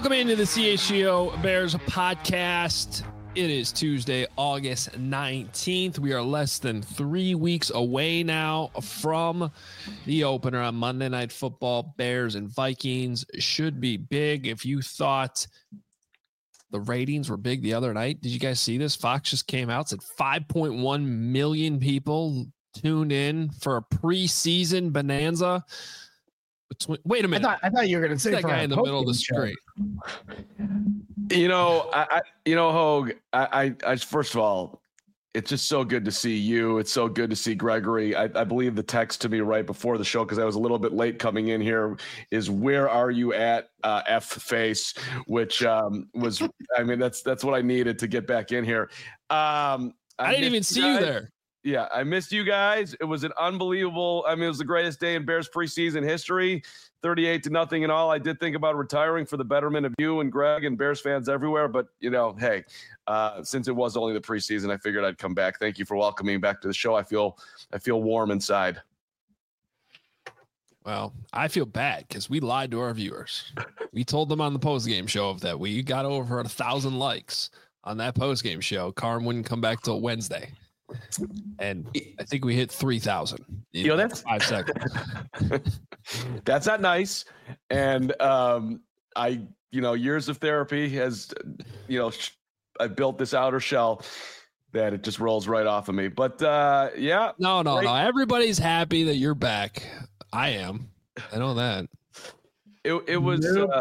Welcome into the CHGO Bears podcast. It is Tuesday, August 19th. We are less than 3 weeks away now from the opener on Monday Night Football. Bears and Vikings should be big. If you thought the ratings were big the other night, did you guys see this? Fox just came out, said 5.1 million people tuned in for a preseason bonanza. Wait a minute. I thought you were going to say that guy in the middle of the screen. Hogue, I first of all, it's just so good to see you. It's so good to see Gregory. I believe the text to me right before the show, because I was a little bit late coming in here, is where are you at F face, which was, that's what I needed to get back in here. I didn't even see you there. Yeah, I missed you guys. It was an unbelievable. It was the greatest day in Bears preseason history, 38-0 and all. I did think about retiring for the betterment of you and Greg and Bears fans everywhere. But, hey, since it was only the preseason, I figured I'd come back. Thank you for welcoming me back to the show. I feel warm inside. Well, I feel bad because we lied to our viewers. We told them on the postgame show that we got over 1,000 likes on that postgame show. Carm wouldn't come back till Wednesday. And I think we hit 3,000. That's 5 seconds. That's not nice. And years of therapy has, I built this outer shell that it just rolls right off of me. But yeah. No. Everybody's happy that you're back. I am. I know that. It was.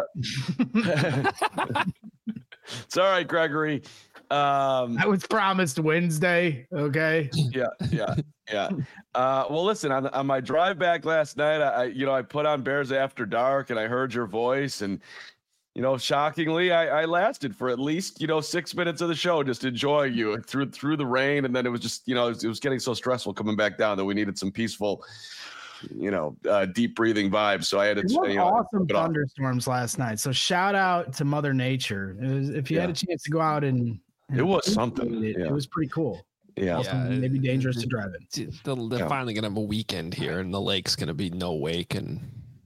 It's all right, Gregory. I was promised Wednesday. Okay. Yeah. Well, listen, on my drive back last night, I put on Bears After Dark and I heard your voice, and shockingly, I lasted for at least 6 minutes of the show, just enjoying you through the rain, and then it was just it was getting so stressful coming back down that we needed some peaceful, deep breathing vibes. So I had to. Awesome thunderstorms last night. So shout out to Mother Nature. If you had a chance to go out and it was something. It was pretty cool. Yeah. Maybe dangerous to drive in. They're finally going to have a weekend here, and the lake's going to be no wake. And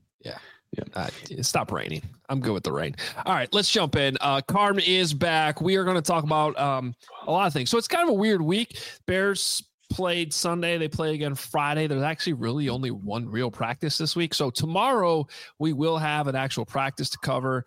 stop raining. I'm good with the rain. All right, let's jump in. Carm is back. We are going to talk about a lot of things. So it's kind of a weird week. Bears played Sunday. They play again Friday. There's actually really only one real practice this week. So tomorrow we will have an actual practice to cover,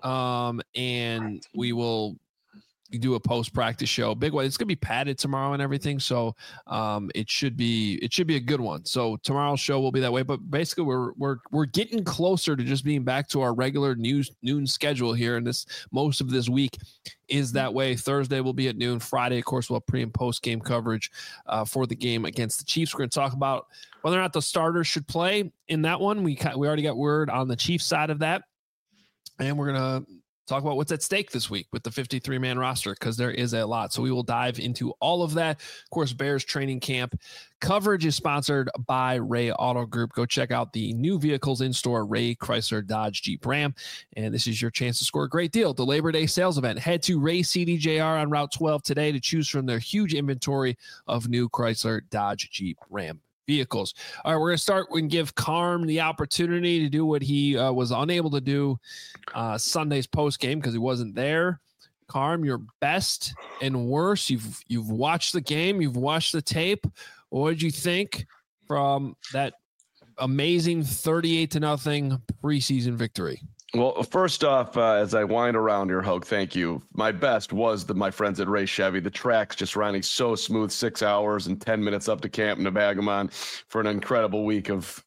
and we will do a post-practice show. Big one. It's going to be padded tomorrow and everything. So it should be a good one. So tomorrow's show will be that way. But basically we're getting closer to just being back to our regular noon schedule here. And most of this week is that way. Thursday will be at noon. Friday, of course, we'll have pre and post game coverage for the game against the Chiefs. We're going to talk about whether or not the starters should play in that one. We already got word on the Chiefs side of that. And we're going to talk about what's at stake this week with the 53-man roster, because there is a lot. So we will dive into all of that. Of course, Bears training camp coverage is sponsored by Ray Auto Group. Go check out the new vehicles in store, Ray Chrysler Dodge Jeep Ram. And this is your chance to score a great deal. The Labor Day sales event. Head to Ray CDJR on Route 12 today to choose from their huge inventory of new Chrysler Dodge Jeep Ram vehicles. All right, we're going to start and give Carm the opportunity to do what he was unable to do Sunday's post game because he wasn't there. Carm, your best and worst. You've watched the game. You've watched the tape. What did you think from that amazing 38-0 preseason victory? Well, first off, as I wind around here, Hogue, thank you. My best was my friends at Ray Chevy. The track's just running so smooth, 6 hours and 10 minutes up to Camp Nebagamon for an incredible week of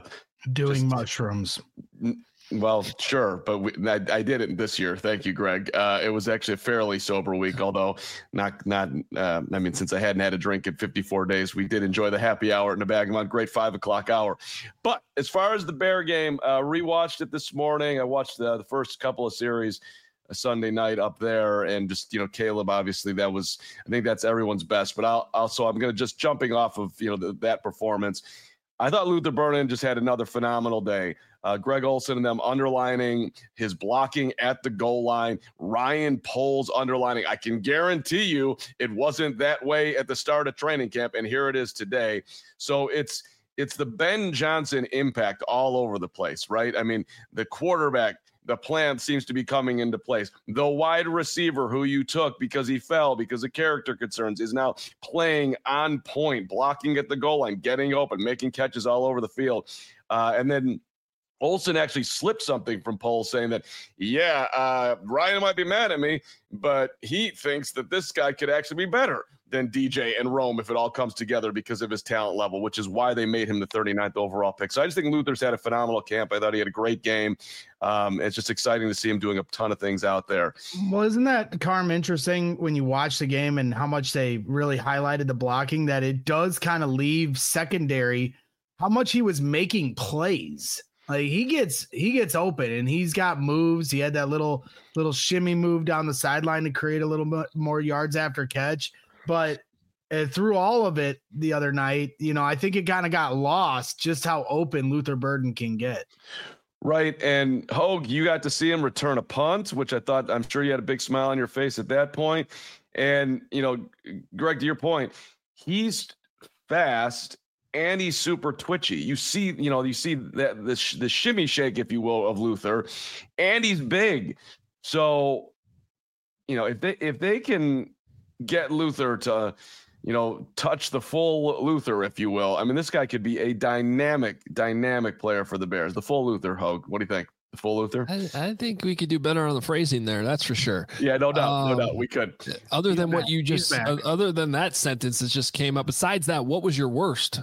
doing mushrooms. Well, sure, but I did it this year. Thank you, Greg. It was actually a fairly sober week, although not. Since I hadn't had a drink in 54 days, we did enjoy the happy hour at Nebagamon. Great 5 o'clock hour. But as far as the Bear game, rewatched it this morning. I watched the first couple of series Sunday night up there, and just Caleb. Obviously, I think that's everyone's best. But I'm going to just jumping off of that performance. I thought Luther Burden just had another phenomenal day. Greg Olsen and them underlining his blocking at the goal line. Ryan Poles underlining. I can guarantee you it wasn't that way at the start of training camp, and here it is today. So it's the Ben Johnson impact all over the place, right? I mean, the quarterback the plan seems to be coming into place. The wide receiver who you took because he fell because of character concerns is now playing on point, blocking at the goal line, getting open, making catches all over the field. And then Olsen actually slipped something from Poles saying that, Ryan might be mad at me, but he thinks that this guy could actually be better than DJ and Rome if it all comes together because of his talent level, which is why they made him the 39th overall pick. So I just think Luther's had a phenomenal camp. I thought he had a great game. It's just exciting to see him doing a ton of things out there. Well, isn't that, Carm, interesting when you watch the game and how much they really highlighted the blocking, that it does kind of leave secondary how much he was making plays. Like he gets open and he's got moves. He had that little shimmy move down the sideline to create a little bit more yards after catch. But through all of it the other night, I think it kind of got lost just how open Luther Burden can get. Right. And Hogue, you got to see him return a punt, which I'm sure you had a big smile on your face at that point. And, Greg, to your point, he's fast and he's super twitchy. You see that the shimmy shake, if you will, of Luther, and he's big. So, if they can get Luther to, touch the full Luther, if you will. I mean, this guy could be a dynamic player for the Bears. The full Luther, Hogue. What do you think? The full Luther? I think we could do better on the phrasing there. That's for sure. Yeah, no doubt. We could. Other than other than that sentence that just came up. Besides that, what was your worst?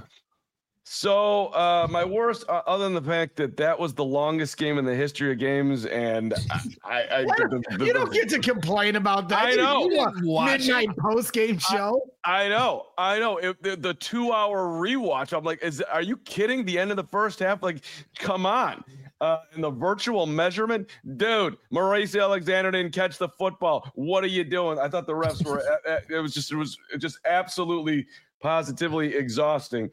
So my worst, other than the fact that was the longest game in the history of games, and you don't get to complain about that. I know. Midnight post game show. I know. The 2-hour rewatch. I'm like, are you kidding? The end of the first half? Like, come on. And the virtual measurement, dude. Maurice Alexander didn't catch the football. What are you doing? I thought the refs were. It was just absolutely, positively exhausting.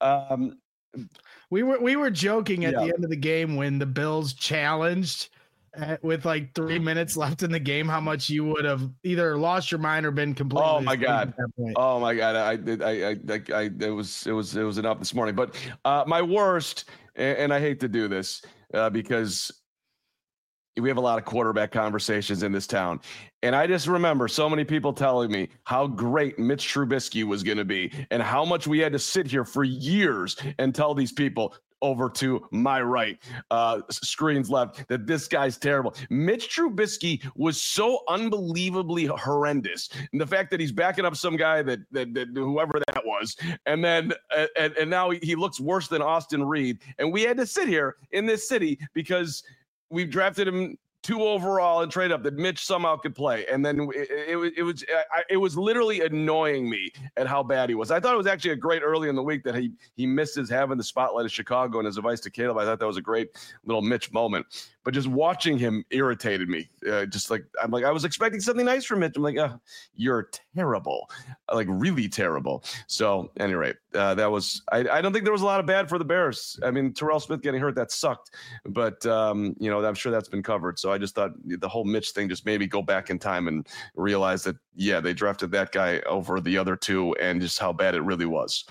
We were joking at the end of the game when the Bills challenged with like 3 minutes left in the game how much you would have either lost your mind or been completely. Oh my god! Oh my god! It was enough this morning. But my worst, and I hate to do this because we have a lot of quarterback conversations in this town. And I just remember so many people telling me how great Mitch Trubisky was going to be and how much we had to sit here for years and tell these people over to my right, screens left, that this guy's terrible. Mitch Trubisky was so unbelievably horrendous. And the fact that he's backing up some guy that whoever that was, and then and now he looks worse than Austin Reed. And we had to sit here in this city because we've drafted him 2 overall and trade up that Mitch somehow could play. And then it was literally annoying me at how bad he was. I thought it was actually a great early in the week that he misses having the spotlight of Chicago and his advice to Caleb. I thought that was a great little Mitch moment. But just watching him irritated me. I was expecting something nice from Mitch. I'm like, you're terrible, like really terrible. So, at any rate, that was. I don't think there was a lot of bad for the Bears. I mean, Terrell Smith getting hurt, that sucked. But I'm sure that's been covered. So I just thought the whole Mitch thing just made me go back in time and realize that they drafted that guy over the other two, and just how bad it really was.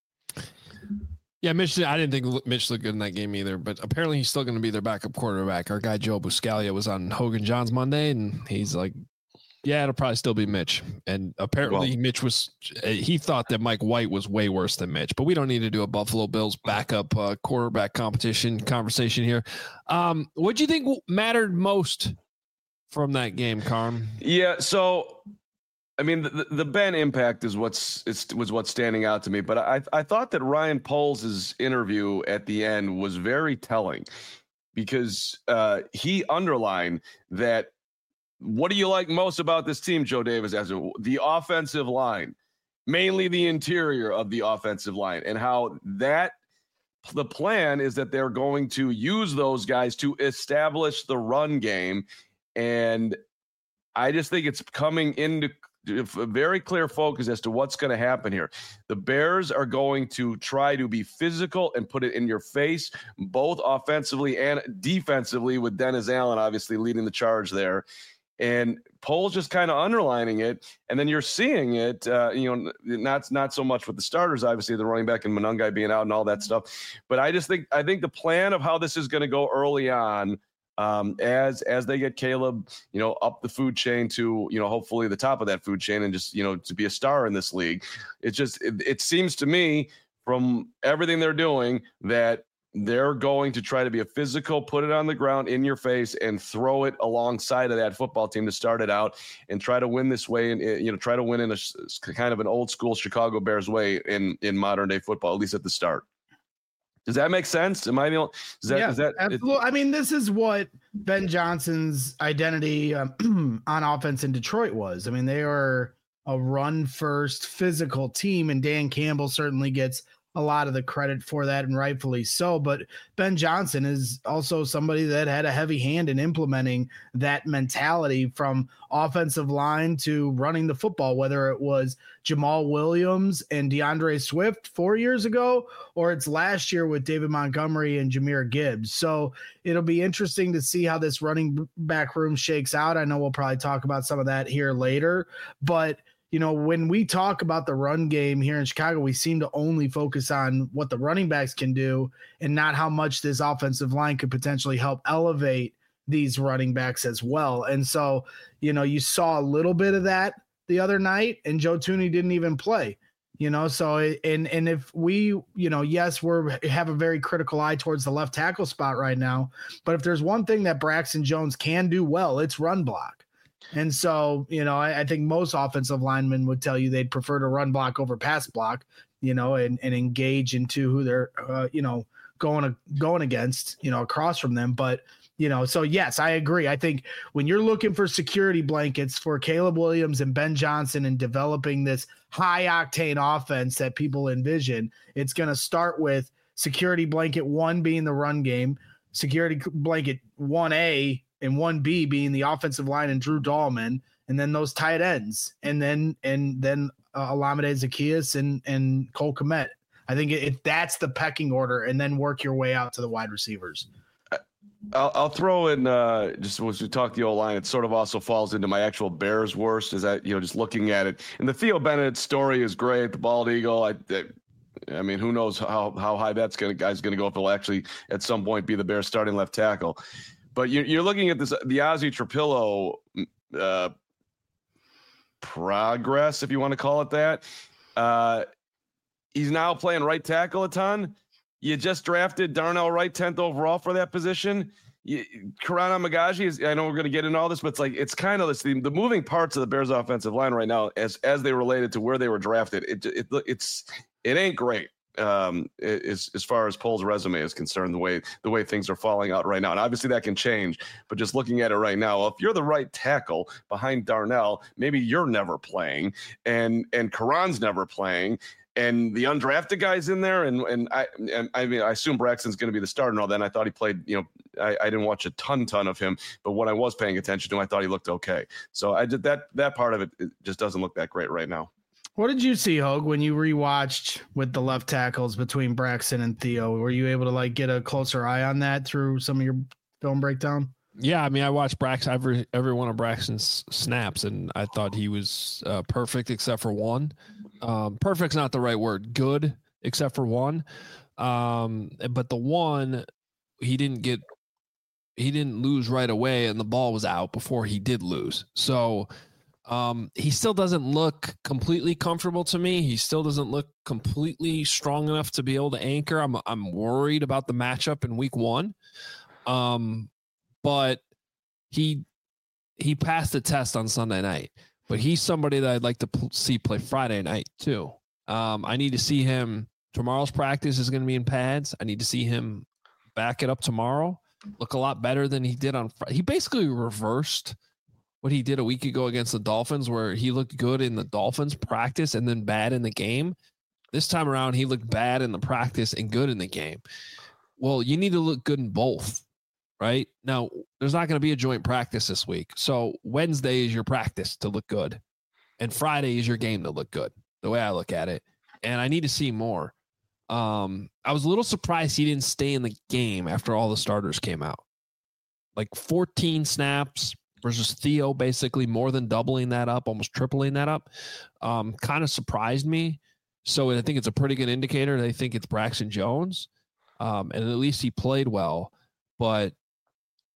Yeah, Mitch, I didn't think Mitch looked good in that game either, but apparently he's still going to be their backup quarterback. Our guy Joe Buscaglia was on Hogan John's Monday, and he's like, it'll probably still be Mitch. And apparently Mitch he thought that Mike White was way worse than Mitch, but we don't need to do a Buffalo Bills backup quarterback conversation here. What do you think mattered most from that game, Carm? Yeah, so I mean, the Ben impact was what's standing out to me. But I thought that Ryan Poles' interview at the end was very telling because he underlined that what do you like most about this team, Joe Davis, as the offensive line, mainly the interior of the offensive line, and how the plan is that they're going to use those guys to establish the run game. And I just think it's coming into a very clear focus as to what's going to happen here. The Bears are going to try to be physical and put it in your face, both offensively and defensively, with Dennis Allen obviously leading the charge there. And Poles just kind of underlining it, and then you're seeing it, not so much with the starters, obviously the running back and Monangai being out and all that stuff. But I think the plan of how this is going to go early on as they get Caleb, up the food chain to, hopefully the top of that food chain and just, to be a star in this league. It seems to me from everything they're doing that they're going to try to be a physical, put it on the ground in your face and throw it alongside of that football team to start it out and try to win this way. And, try to win in a kind of an old school Chicago Bears way in modern day football, at least at the start. Does that make sense? Am I the only? Is that absolutely? I mean, this is what Ben Johnson's identity on offense in Detroit was. I mean, they are a run first physical team, and Dan Campbell certainly gets a lot of the credit for that, and rightfully so. But Ben Johnson is also somebody that had a heavy hand in implementing that mentality from offensive line to running the football, whether it was Jamal Williams and DeAndre Swift 4 years ago, or it's last year with David Montgomery and Jahmyr Gibbs. So it'll be interesting to see how this running back room shakes out. I know we'll probably talk about some of that here later, but when we talk about the run game here in Chicago, we seem to only focus on what the running backs can do and not how much this offensive line could potentially help elevate these running backs as well. And so, you saw a little bit of that the other night, and Joe Thuney didn't even play, so, and if we, yes, have a very critical eye towards the left tackle spot right now, but if there's one thing that Braxton Jones can do well, it's run block. And so, I think most offensive linemen would tell you they'd prefer to run block over pass block, and engage into who they're, going against, across from them. But, so yes, I agree. I think when you're looking for security blankets for Caleb Williams and Ben Johnson and developing this high octane offense that people envision, it's going to start with security blanket 1 being the run game, security blanket 1A and 1B being the offensive line and Drew Dahlman, and then those tight ends, and then Olamide Zaccheaus and Cole Kmet. I think that's the pecking order, and then work your way out to the wide receivers. I'll throw in just as we talk the O-line, it sort of also falls into my actual Bears worst, is that, just looking at it. And the Theo Bennett story is great, the bald eagle. I mean, who knows how high guy's going to go if he'll actually at some point be the Bears starting left tackle. But you're looking at the Ozzy Trapillo progress, if you want to call it that. He's now playing right tackle a ton. You just drafted Darnell Wright 10th overall for that position. Karan Amagaji, I know we're going to get into all this, but it's kind of the moving parts of the Bears offensive line right now as they related to where they were drafted. It ain't great. As far as Poles' resume is concerned, the way things are falling out right now, and obviously that can change. But just looking at it right now, if you're the right tackle behind Darnell, maybe you're never playing, and Karan's never playing, and the undrafted guys in there, and I mean, I assume Braxton's going to be the starter and all that. And I thought he played. I didn't watch a ton of him, but when I was paying attention to him, I thought he looked okay. So I did that part of it just doesn't look that great right now. What did you see, Hogue, when you rewatched with the left tackles between Braxton and Theo? Were you able to get a closer eye on that through some of your film breakdown? Yeah, I mean, I watched Braxton every one of Braxton's snaps, and I thought he was perfect except for one. Perfect's not the right word. Good except for one. But the one he didn't lose right away, and the ball was out before he did lose. So. He still doesn't look completely comfortable to me. He still doesn't look completely strong enough to be able to anchor. I'm worried about the matchup in week 1. But he passed the test on Sunday night, but he's somebody that I'd like to see play Friday night too. I need to see him. Tomorrow's practice is going to be in pads. I need to see him back it up tomorrow. Look a lot better than he did on Friday. He basically reversed what he did a week ago against the Dolphins, where he looked good in the Dolphins practice and then bad in the game. This time around, he looked bad in the practice and good in the game. Well, you need to look good in both, right? Now, there's not going to be a joint practice this week. So Wednesday is your practice to look good, and Friday is your game to look good, the way I look at it. And I need to see more. I was a little surprised he didn't stay in the game after all the starters came out. 14 snaps versus Theo, basically more than doubling that up, almost tripling that up. Kind of surprised me. So I think it's a pretty good indicator. They think it's Braxton Jones. And at least he played well. But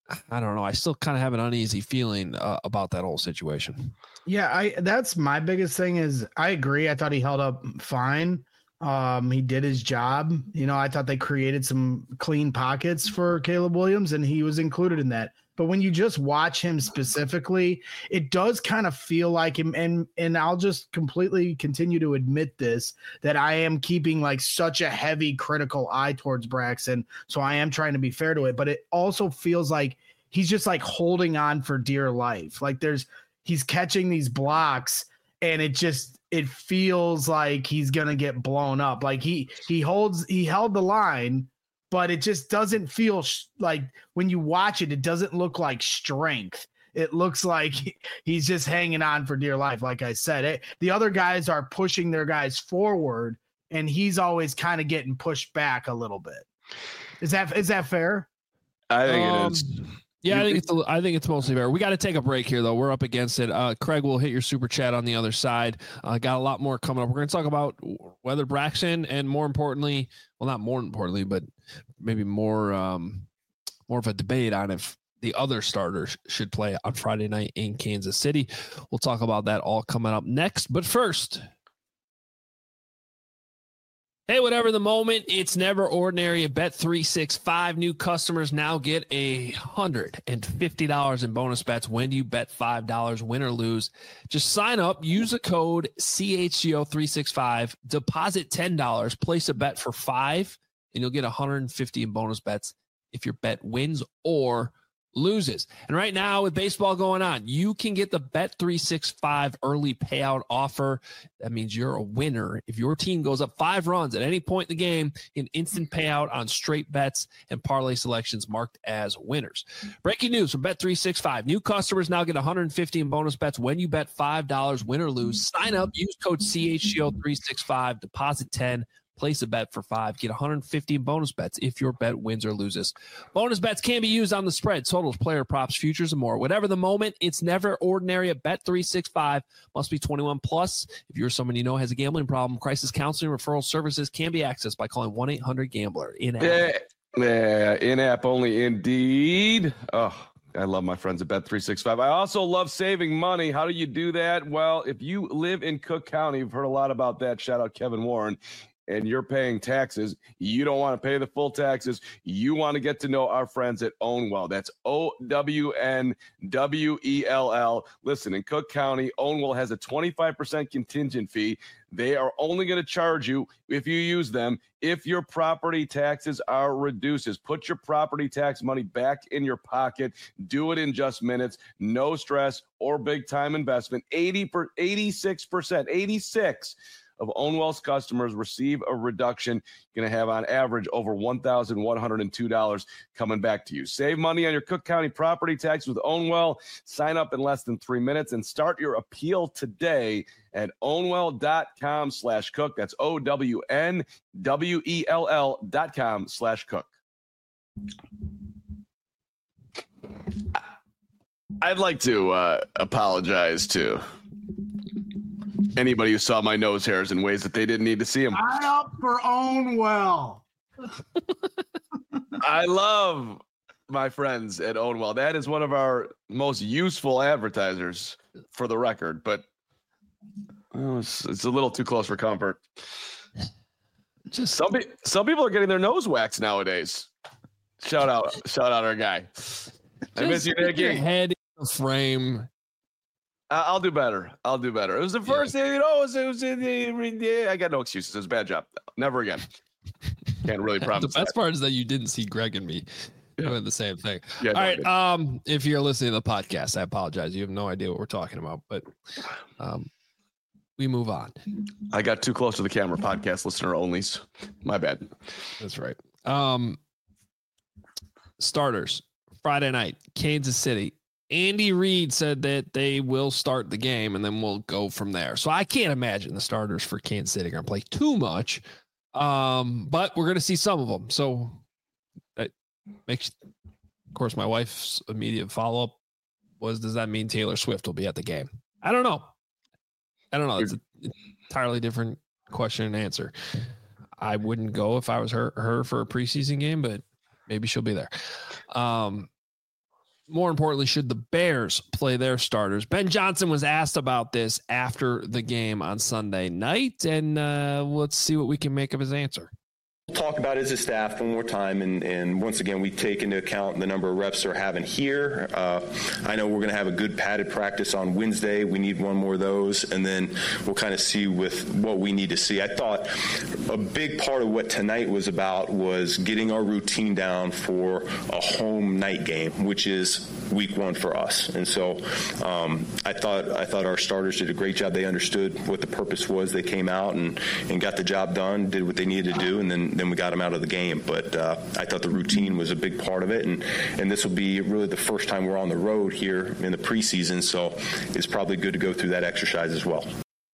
I don't know. I still kind of have an uneasy feeling about that whole situation. Yeah, that's my biggest thing is I agree. I thought he held up fine. He did his job. I thought they created some clean pockets for Caleb Williams, and he was included in that. But when you just watch him specifically, it does kind of feel like him. And I'll just completely continue to admit this, that I am keeping like such a heavy critical eye towards Braxton. So I am trying to be fair to it, but it also feels like he's just like holding on for dear life. Like he's catching these blocks and it feels like he's going to get blown up. Like he held the line, but it just doesn't feel like when you watch it, it doesn't look like strength. It looks like he's just hanging on for dear life. Like I said, the other guys are pushing their guys forward and he's always kind of getting pushed back a little bit. Is that fair? I think it is. Yeah, I think it's mostly fair. We got to take a break here, though. We're up against it. Craig will hit your super chat on the other side. Got a lot more coming up. We're going to talk about whether Braxton and more importantly, well, not more importantly, but maybe more of a debate on if the other starters should play on Friday night in Kansas City. We'll talk about that all coming up next. But first, hey, whatever the moment, it's never ordinary. At Bet365, new customers now get $150 in bonus bets when you bet $5, win or lose. Just sign up, use the code CHGO365, deposit $10, place a bet for $5, and you'll get $150 in bonus bets if your bet wins or loses. And right now with baseball going on, you can get the Bet365 early payout offer. That means you're a winner. If your team goes up 5 runs at any point in the game, an instant payout on straight bets and parlay selections marked as winners. Breaking news from Bet365. New customers now get $150 in bonus bets when you bet $5, win or lose. Sign up, use code CHGO365, deposit 10, place a bet for $5, get $150 in bonus bets if your bet wins or loses. Bonus bets can be used on the spread, totals, player props, futures, and more. Whatever the moment, it's never ordinary at Bet365. Must be 21 plus. If you're someone you know has a gambling problem, crisis counseling referral services can be accessed by calling 1-800-GAMBLER. In-app. Yeah, in-app only indeed. Oh, I love my friends at Bet365. I also love saving money. How do you do that? Well, if you live in Cook County, you've heard a lot about that. Shout out Kevin Warren. And you're paying taxes, you don't want to pay the full taxes. You want to get to know our friends at Ownwell. That's OWNWELL. Listen, in Cook County, Ownwell has a 25% contingent fee. They are only going to charge you if you use them if your property taxes are reduced. Put your property tax money back in your pocket. Do it in just minutes. No stress or big time investment. 86% of Ownwell's customers receive a reduction. You're going to have on average over $1,102 coming back to you. Save money on your Cook County property tax with Ownwell. Sign up in less than 3 minutes and start your appeal today at ownwell.com/cook. That's OWNWELL.com/cook. I'd like to apologize to anybody who saw my nose hairs in ways that they didn't need to see them. I'm up for Ownwell. I love my friends at Ownwell. That is one of our most useful advertisers, for the record, but it's a little too close for comfort. Just some people are getting their nose waxed nowadays. Shout out our guy. I miss you, Nicky. Your head in the frame. I'll do better. It was the first thing, it was I got no excuses. It was a bad job. Never again. Can't really promise. The best part is that you didn't see Greg and me doing the same thing. Yeah, all right. If you're listening to the podcast, I apologize. You have no idea what we're talking about, but we move on. I got too close to the camera. Podcast listener onlys. My bad. That's right. Starters Friday night, Kansas City. Andy Reid said that they will start the game and then we'll go from there. So I can't imagine the starters for Kansas City are going to play too much. But we're going to see some of them. So that makes, of course, my wife's immediate follow-up was, does that mean Taylor Swift will be at the game? I don't know. It's an entirely different question and answer. I wouldn't go if I was her for a preseason game, but maybe she'll be there. more importantly, should the Bears play their starters? Ben Johnson was asked about this after the game on Sunday night, and let's see what we can make of his answer. Talk about it as a staff one more time, and once again, we take into account the number of reps they're having here. I know we're going to have a good padded practice on Wednesday. We need one more of those, and then we'll kind of see with what we need to see. I thought a big part of what tonight was about was getting our routine down for a home night game, which is week 1 for us. And so I thought our starters did a great job. They understood what the purpose was. They came out and got the job done, did what they needed to do, and then we got them out of the game. But I thought the routine was a big part of it, and this will be really the first time we're on the road here in the preseason, so it's probably good to go through that exercise as well.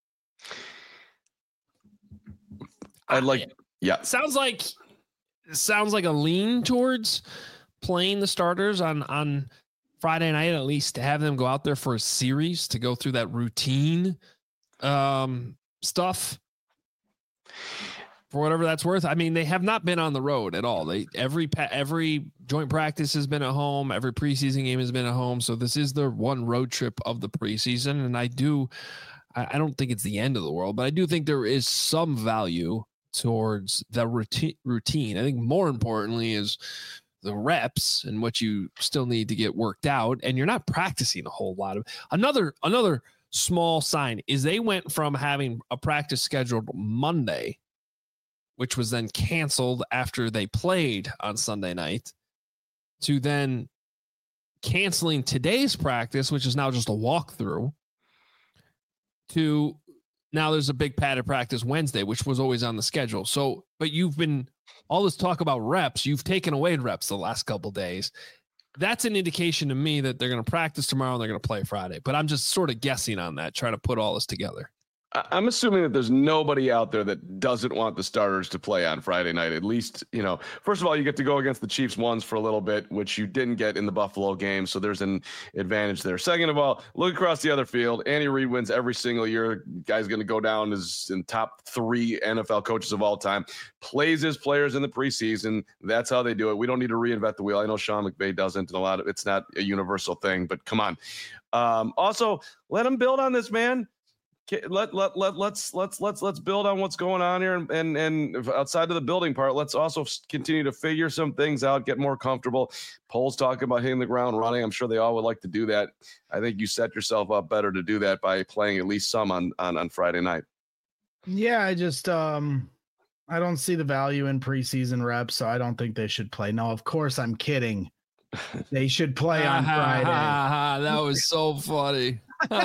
Sounds like a lean towards playing the starters on Friday night, at least to have them go out there for a series to go through that routine stuff. For whatever that's worth. I mean, they have not been on the road at all. Every joint practice has been at home. Every preseason game has been at home. So this is the one road trip of the preseason. And I don't think it's the end of the world, but I do think there is some value towards the routine. I think more importantly is the reps and what you still need to get worked out. And you're not practicing a whole lot of another small sign is they went from having a practice scheduled Monday, which was then canceled after they played on Sunday night, to then canceling today's practice, which is now just a walkthrough, to now there's a big padded practice Wednesday, which was always on the schedule. So, but you've been all this talk about reps, you've taken away reps the last couple of days. That's an indication to me that they're going to practice tomorrow and they're going to play Friday. But I'm just sort of guessing on that, trying to put all this together. I'm assuming that there's nobody out there that doesn't want the starters to play on Friday night. At least, first of all, you get to go against the Chiefs once for a little bit, which you didn't get in the Buffalo game. So there's an advantage there. Second of all, look across the other field. Andy Reid wins every single year. Guy's going to go down as in top 3 NFL coaches of all time. Plays his players in the preseason. That's how they do it. We don't need to reinvent the wheel. I know Sean McVay doesn't, and it's not a universal thing, but come on. Also, let him build on this, man. Let's build on what's going on here, and outside of the building part, let's also continue to figure some things out, get more comfortable. Poles talking about hitting the ground running. I'm sure they all would like to do that. I think you set yourself up better to do that by playing at least some on Friday night. Yeah, I just I don't see the value in preseason reps, so I don't think they should play. No, of course I'm kidding. They should play on Friday. That was so funny.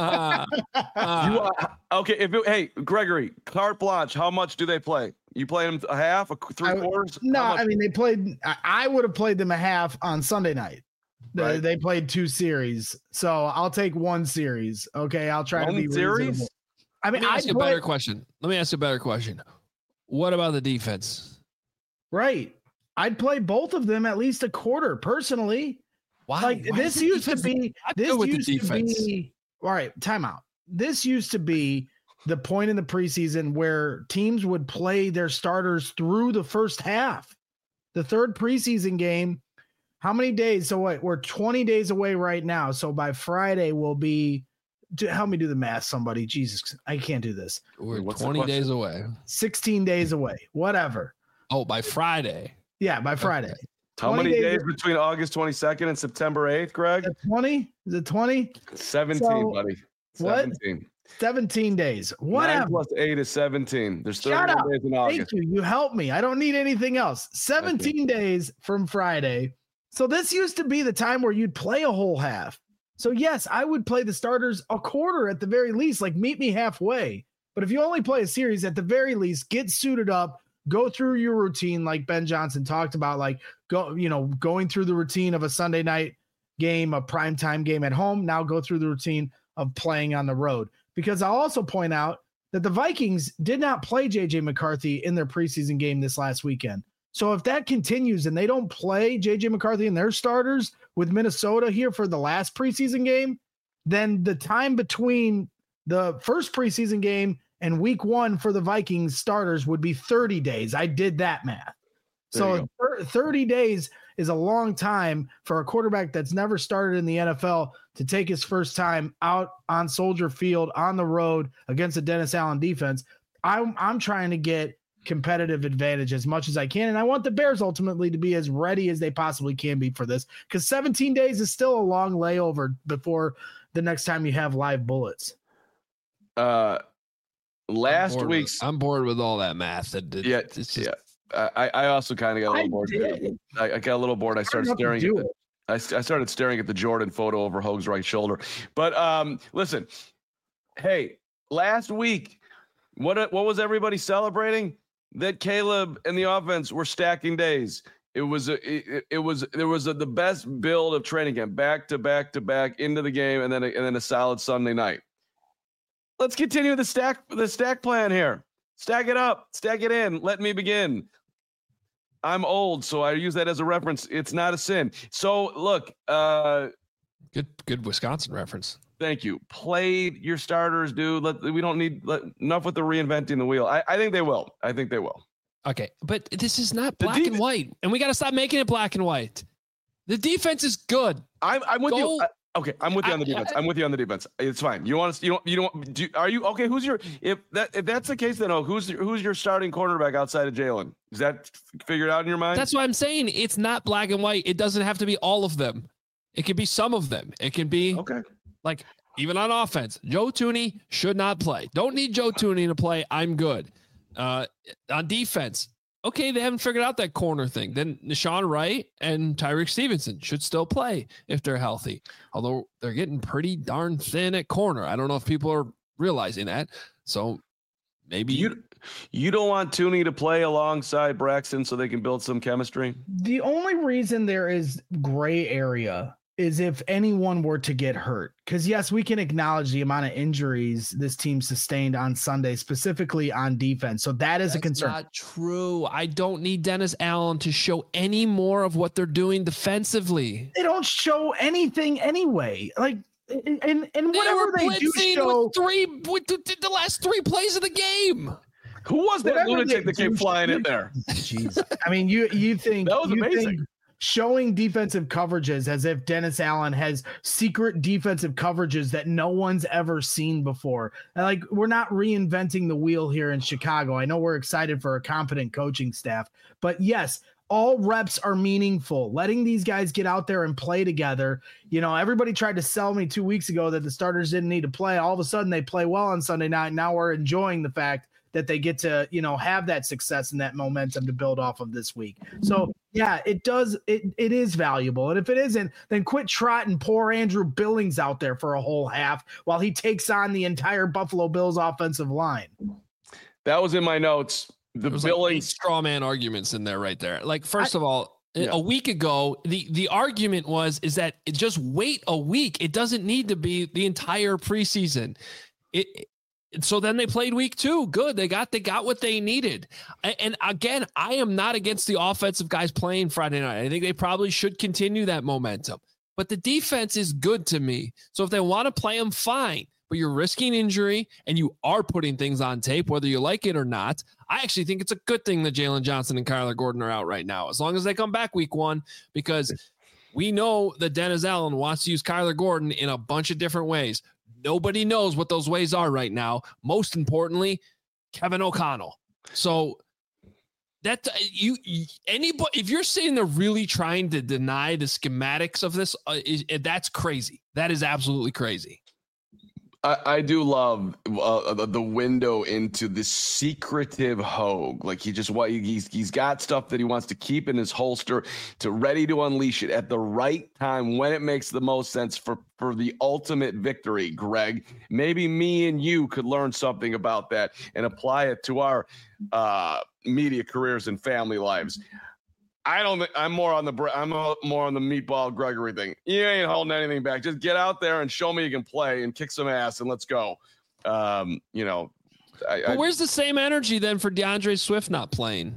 Okay. Hey, Gregory, carte blanche. How much do they play? You play them a half, 3/4? No, I mean they played. I would have played them a half on Sunday night. Right. They played 2 series, so I'll take 1 series. Okay, I'll try to be series. Reasonable. I mean, Let me ask you a better question. What about the defense? Right, I'd play both of them at least a quarter personally. Wow, like this used to be. All right, timeout. This used to be the point in the preseason where teams would play their starters through the first half. The third preseason game, how many days? So what? We're 20 days away right now. So by Friday we'll be, help me do the math, somebody. Jesus, I can't do this. We're 20 days away. 16 days away, whatever. Oh, by Friday. Yeah, by Friday. Okay. How many days between August 22nd and September 8th, Greg? 20? Is it 20? 17, buddy. 17. What? 17 days. Whatever. 9 plus 8 is 17. There's 31 days in August. Thank you. You helped me. I don't need anything else. 17 days from Friday. So this used to be the time where you'd play a whole half. So yes, I would play the starters a quarter at the very least, like meet me halfway. But if you only play a series, at the very least, get suited up, go through your routine like Ben Johnson talked about, like going through the routine of a Sunday night game, a primetime game at home. Now go through the routine of playing on the road. Because I'll also point out that the Vikings did not play J.J. McCarthy in their preseason game this last weekend. So if that continues and they don't play J.J. McCarthy and their starters with Minnesota here for the last preseason game, then the time between the first preseason game and week 1 for the Vikings starters would be 30 days. I did that math. So 30 days is a long time for a quarterback that's never started in the NFL to take his first time out on Soldier Field on the road against a Dennis Allen defense. I'm trying to get competitive advantage as much as I can, and I want the Bears ultimately to be as ready as they possibly can be for this, because 17 days is still a long layover before the next time you have live bullets. Last week's, I'm bored with all that math. It's just, I also kind of got a little bored. I got a little bored. I started staring at I started staring at the Jordan photo over Hoge's right shoulder. But listen, hey, last week, what was everybody celebrating? That Caleb and the offense were stacking days. There was the best build of training camp, back to back into the game, and then a solid Sunday night. Let's continue the stack plan here. Stack it up, stack it in. Let me begin. I'm old, so I use that as a reference. It's not a sin. So look, good Wisconsin reference. Thank you. Play your starters, dude. We don't need enough with the reinventing the wheel. I think they will. Okay, but this is not black and white, and we got to stop making it black and white. The defense is good. I'm with you. Okay, I'm with you on the defense. I'm with you on the defense. It's fine. You want to? Are you okay? If that's the case, then who's your starting cornerback outside of Jalen? Is that figured out in your mind? That's what I'm saying. It's not black and white. It doesn't have to be all of them. It can be some of them. It can be like even on offense. Joe Thuney should not play. Don't need Joe Thuney to play. I'm good. On defense. Okay, they haven't figured out that corner thing. Then Nahshon Wright and Tyreek Stevenson should still play if they're healthy. Although they're getting pretty darn thin at corner. I don't know if people are realizing that. So maybe you don't want Thuney to play alongside Braxton so they can build some chemistry. The only reason there is gray area is if anyone were to get hurt. Because yes, we can acknowledge the amount of injuries this team sustained on Sunday, specifically on defense. So that's a concern. Not true. I don't need Dennis Allen to show any more of what they're doing defensively. They don't show anything anyway. Like, and whatever they do show, with the last 3 plays of the game. Who was that lunatic that came flying in there? Jeez. I mean, you think that was amazing. Showing defensive coverages as if Dennis Allen has secret defensive coverages that no one's ever seen before. And like, we're not reinventing the wheel here in Chicago. I know we're excited for a competent coaching staff, but yes, all reps are meaningful. Letting these guys get out there and play together. You know, everybody tried to sell me 2 weeks ago that the starters didn't need to play. All of a sudden they play well on Sunday night. Now we're enjoying the fact that they get to, have that success and that momentum to build off of this week. So yeah, it does. It is valuable. And if it isn't, then quit trotting poor Andrew Billings out there for a whole half while he takes on the entire Buffalo Bills offensive line. That was in my notes. The Billings like straw man arguments in there right there. Like, first of all, a week ago, the argument is that just wait a week. It doesn't need to be the entire preseason. So then they played week 2. Good. They got what they needed. And again, I am not against the offensive guys playing Friday night. I think they probably should continue that momentum. But the defense is good to me. So if they want to play them, fine. But you're risking injury and you are putting things on tape, whether you like it or not. I actually think it's a good thing that Jalen Johnson and Kyler Gordon are out right now, as long as they come back week 1, because we know that Dennis Allen wants to use Kyler Gordon in a bunch of different ways. Nobody knows what those ways are right now. Most importantly, Kevin O'Connell. So that anybody, if you're sitting there really trying to deny the schematics of this, that's crazy. That is absolutely crazy. I do love the window into the secretive Hogue. Like he's got stuff that he wants to keep in his holster, to ready to unleash it at the right time when it makes the most sense for the ultimate victory. Greg, maybe me and you could learn something about that and apply it to our media careers and family lives. I'm more on the meatball Gregory thing. You ain't holding anything back. Just get out there and show me you can play and kick some ass and let's go. But where's the same energy then for DeAndre Swift not playing?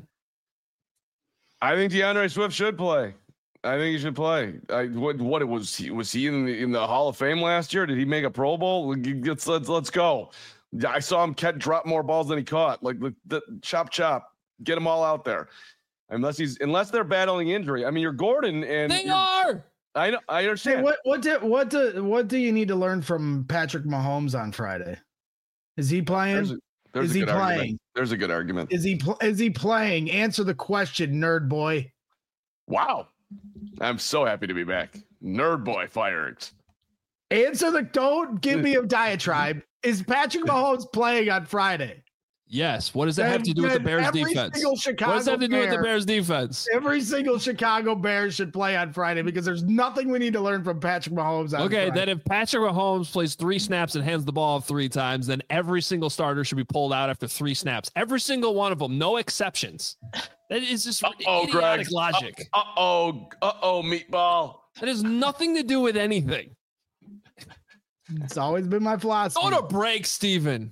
I think DeAndre Swift should play. I think he should play. Was he in the Hall of Fame last year? Did he make a Pro Bowl? Let's go. I saw him drop more balls than he caught. Like the chop, get them all out there. unless they're battling injury. I mean, you're Gordon and they are. I know. I understand. Hey, what do you need to learn from Patrick Mahomes on Friday? Is he playing? Is he playing? There's a good argument. Is he playing? Answer the question, nerd boy. Wow. I'm so happy to be back. Nerd boy fired. Don't give me a diatribe. Is Patrick Mahomes playing on Friday? Yes. What does that have to do with the Bears defense? What does that have to do with the Bears defense? Every single Chicago Bears should play on Friday because there's nothing we need to learn from Patrick Mahomes. Okay, then if Patrick Mahomes plays 3 snaps and hands the ball 3 times, then every single starter should be pulled out after 3 snaps. Every single one of them, no exceptions. That is just idiotic logic. Meatball. That has nothing to do with anything. It's always been my philosophy. Go to break, Steven.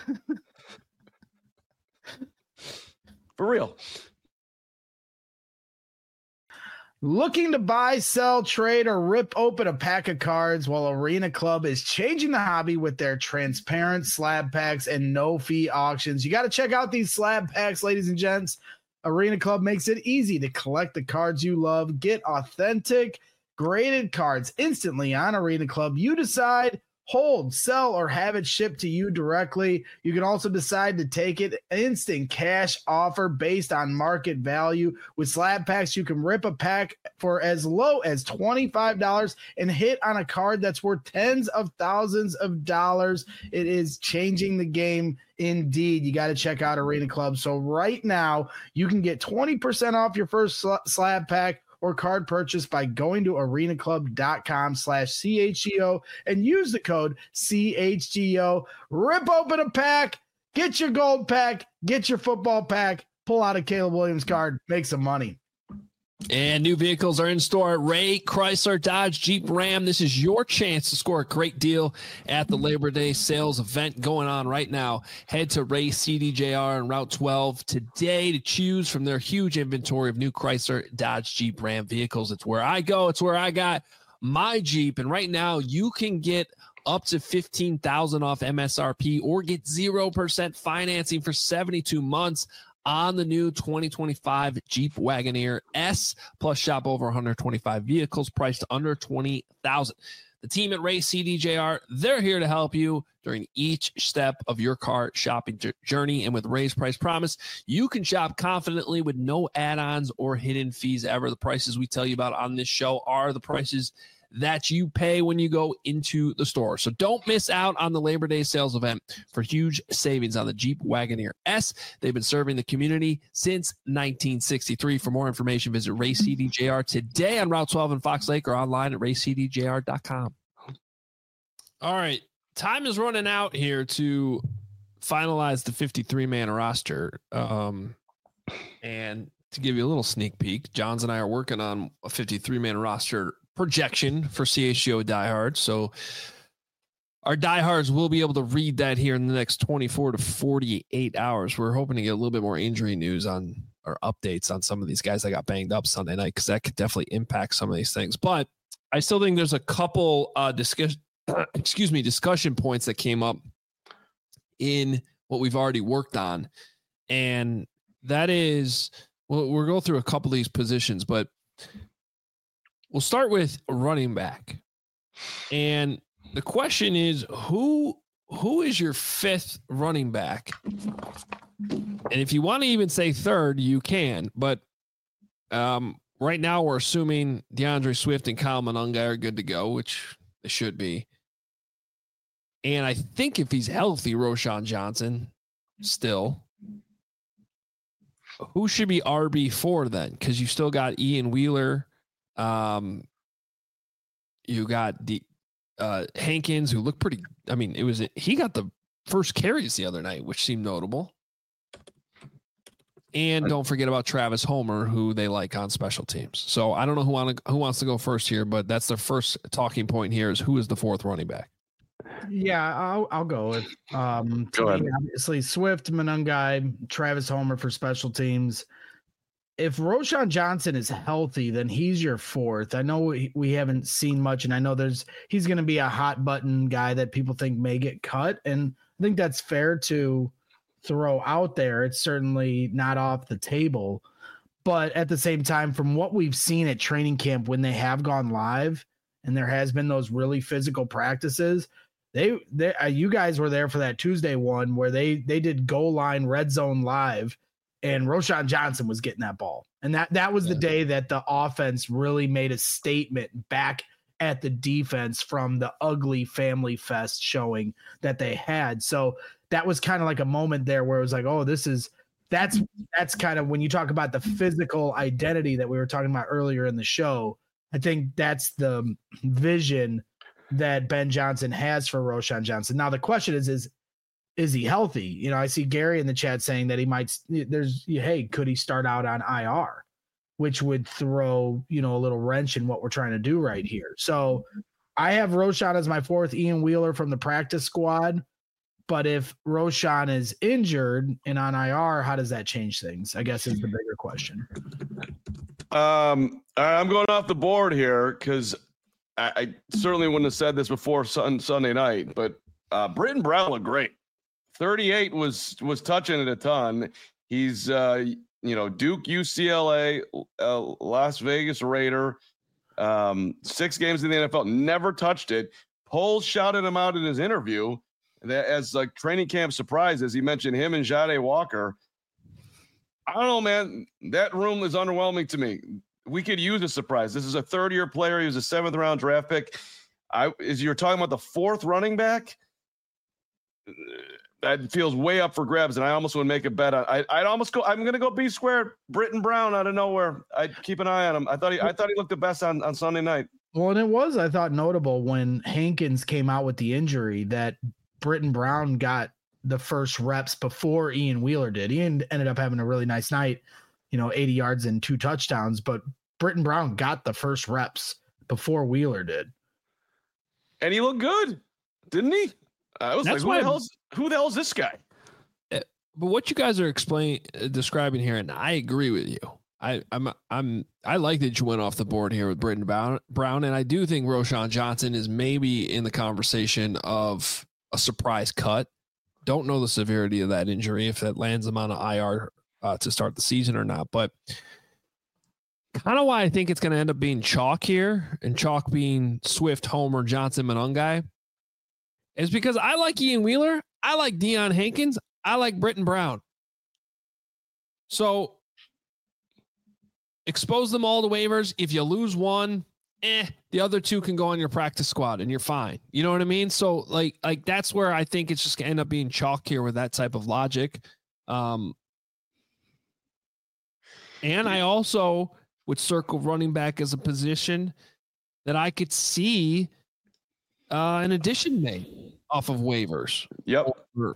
For real. Looking to buy, sell, trade, or rip open a pack of cards? Well, Arena Club is changing the hobby with their transparent slab packs and no-fee auctions. You got to check out these slab packs, ladies and gents. Arena Club makes it easy to collect the cards you love. Get authentic, graded cards instantly on Arena Club. You decide. Hold, sell, or have it shipped to you directly. You can also decide to take it instant cash offer based on market value. With slab packs, you can rip a pack for as low as $25 and hit on a card that's worth tens of thousands of dollars. It is changing the game indeed. You got to check out Arena Club. So right now, you can get 20% off your first slab pack or card purchase by going to arenaclub.com/CHGO and use the code CHGO. Rip open a pack, get your gold pack, get your football pack, pull out a Caleb Williams card, make some money. And new vehicles are in store at Ray Chrysler Dodge Jeep Ram. This is your chance to score a great deal at the Labor Day sales event going on right now. Head to Ray CDJR on Route 12 today to choose from their huge inventory of new Chrysler Dodge Jeep Ram vehicles. It's where I go. It's where I got my Jeep. And right now you can get up to $15,000 off MSRP or get 0% financing for 72 months on the new 2025 Jeep Wagoneer S, plus shop over 125 vehicles priced under $20,000. The team at Ray CDJR, they're here to help you during each step of your car shopping journey. And with Ray's Price Promise, you can shop confidently with no add-ons or hidden fees ever. The prices we tell you about on this show are the prices that you pay when you go into the store. So don't miss out on the Labor Day sales event for huge savings on the Jeep Wagoneer S. They've been serving the community since 1963. For more information, visit Ray CDJR today on Route 12 in Fox Lake or online at raycdjr.com. All right. Time is running out here to finalize the 53-man roster. And to give you a little sneak peek, Johns and I are working on a 53-man roster projection for CHGO diehards. So our diehards will be able to read that here in the next 24 to 48 hours. We're hoping to get a little bit more injury news on or updates on some of these guys that got banged up Sunday night, because that could definitely impact some of these things. But I still think there's a couple discussion points that came up in what we've already worked on. And that is, we'll go through a couple of these positions, but we'll start with running back. And the question is, who is your 5th running back? And if you want to even say 3rd, you can. But right now we're assuming DeAndre Swift and Kyle Monangai are good to go, which they should be. And I think if he's healthy, Roschon Johnson still. Who should be RB4 then? Because you still got Ian Wheeler. You got the Hankins, who looked pretty. I mean, he got the first carries the other night, which seemed notable. And don't forget about Travis Homer, who they like on special teams. So I don't know who wants to go first here, but that's the first talking point here: is who is the 4th running back? Yeah, I'll go with go ahead. Obviously Swift, Monangai, Travis Homer for special teams. If Roschon Johnson is healthy, then he's your 4th. I know we haven't seen much, and I know he's going to be a hot button guy that people think may get cut, and I think that's fair to throw out there. It's certainly not off the table, But at the same time, from what we've seen at training camp when they have gone live and there has been those really physical practices, you guys were there for that Tuesday one where they did goal line red zone live and Roschon Johnson was getting that ball. And that was the day that the offense really made a statement back at the defense from the ugly family fest showing that they had. So that was kind of like a moment there where it was like, oh, that's kind of when you talk about the physical identity that we were talking about earlier in the show. I think that's the vision that Ben Johnson has for Roschon Johnson. Now the question is he healthy? You know, I see Gary in the chat saying that he might. Could he start out on IR, which would throw a little wrench in what we're trying to do right here. So I have Roschon as my fourth, Ian Wheeler from the practice squad. But if Roschon is injured and on IR, how does that change things? I guess is the bigger question. I'm going off the board here because I certainly wouldn't have said this before Sunday night, but Britton Brown looked great. 38 was touching it a ton. He's Duke, UCLA, Las Vegas Raider, 6 games in the NFL, never touched it. Poles shouted him out in his interview that as like training camp surprise, as he mentioned him and Jade Walker. I don't know, man. That room is underwhelming to me. We could use a surprise. This is a third-year player. He was a 7th-round draft pick. You're talking about the 4th running back. That feels way up for grabs, and I almost would make a bet on. I'd almost go. I'm going to go B squared. Britton Brown out of nowhere. I'd keep an eye on him. I thought he looked the best on Sunday night. Well, and it was, I thought, notable when Hankins came out with the injury that Britton Brown got the first reps before Ian Wheeler did. He ended up having a really nice night, 80 yards and 2 touchdowns, but Britton Brown got the first reps before Wheeler did. And he looked good, didn't he? I was That's like, who the hell is this guy? But what you guys are describing here, and I agree with you. I like that you went off the board here with Britton Brown, and I do think Roschon Johnson is maybe in the conversation of a surprise cut. Don't know the severity of that injury, if that lands him on an IR to start the season or not. But kind of why I think it's going to end up being chalk here, and chalk being Swift, Homer, Johnson, Monangai, is because I like Ian Wheeler, I like Deion Hankins, I like Britton Brown. So expose them all to waivers. If you lose one, the other 2 can go on your practice squad and you're fine. You know what I mean? So like that's where I think it's just gonna end up being chalk here with that type of logic. And I also would circle running back as a position that I could see an addition made off of waivers. Yep. Or,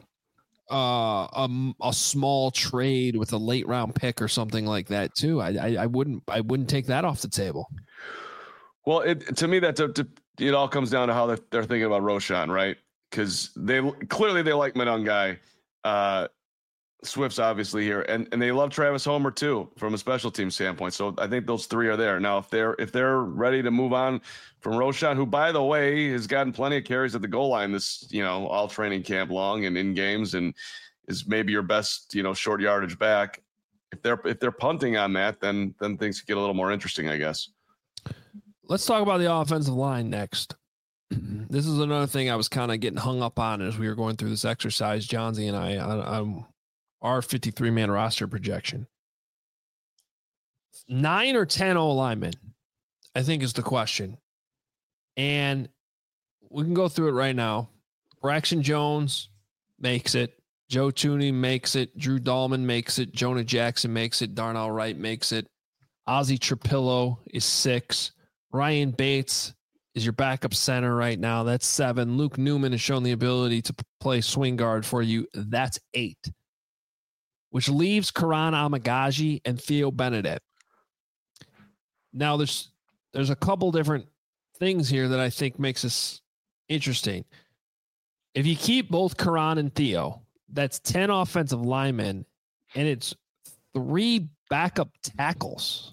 a small trade with a late round pick or something like that too. I wouldn't take that off the table. Well, to me, it all comes down to how they're thinking about Roschon, right? Because they clearly like Monangai. Swift's obviously here, and they love Travis Homer too from a special team standpoint. So I think those 3 are there. Now, if they're ready to move on from Roschon, who by the way has gotten plenty of carries at the goal line this all training camp long and in games, and is maybe your best short yardage back. If they're punting on that, then things get a little more interesting, I guess. Let's talk about the offensive line next. This is another thing I was kind of getting hung up on as we were going through this exercise, Johnsy and I, on our 53-man roster projection. 9 or 10 O-linemen, I think, is the question. And we can go through it right now. Braxton Jones makes it. Joe Thuney makes it. Drew Dahlman makes it. Jonah Jackson makes it. Darnell Wright makes it. Ozzie Trapillo is 6. Ryan Bates is your backup center right now. That's 7. Luke Newman has shown the ability to play swing guard for you. That's 8. Which leaves Karan Amagaji and Theo Benedict. Now, there's a couple different things here that I think makes this interesting. If you keep both Karan and Theo, that's 10 offensive linemen, and it's 3 backup tackles,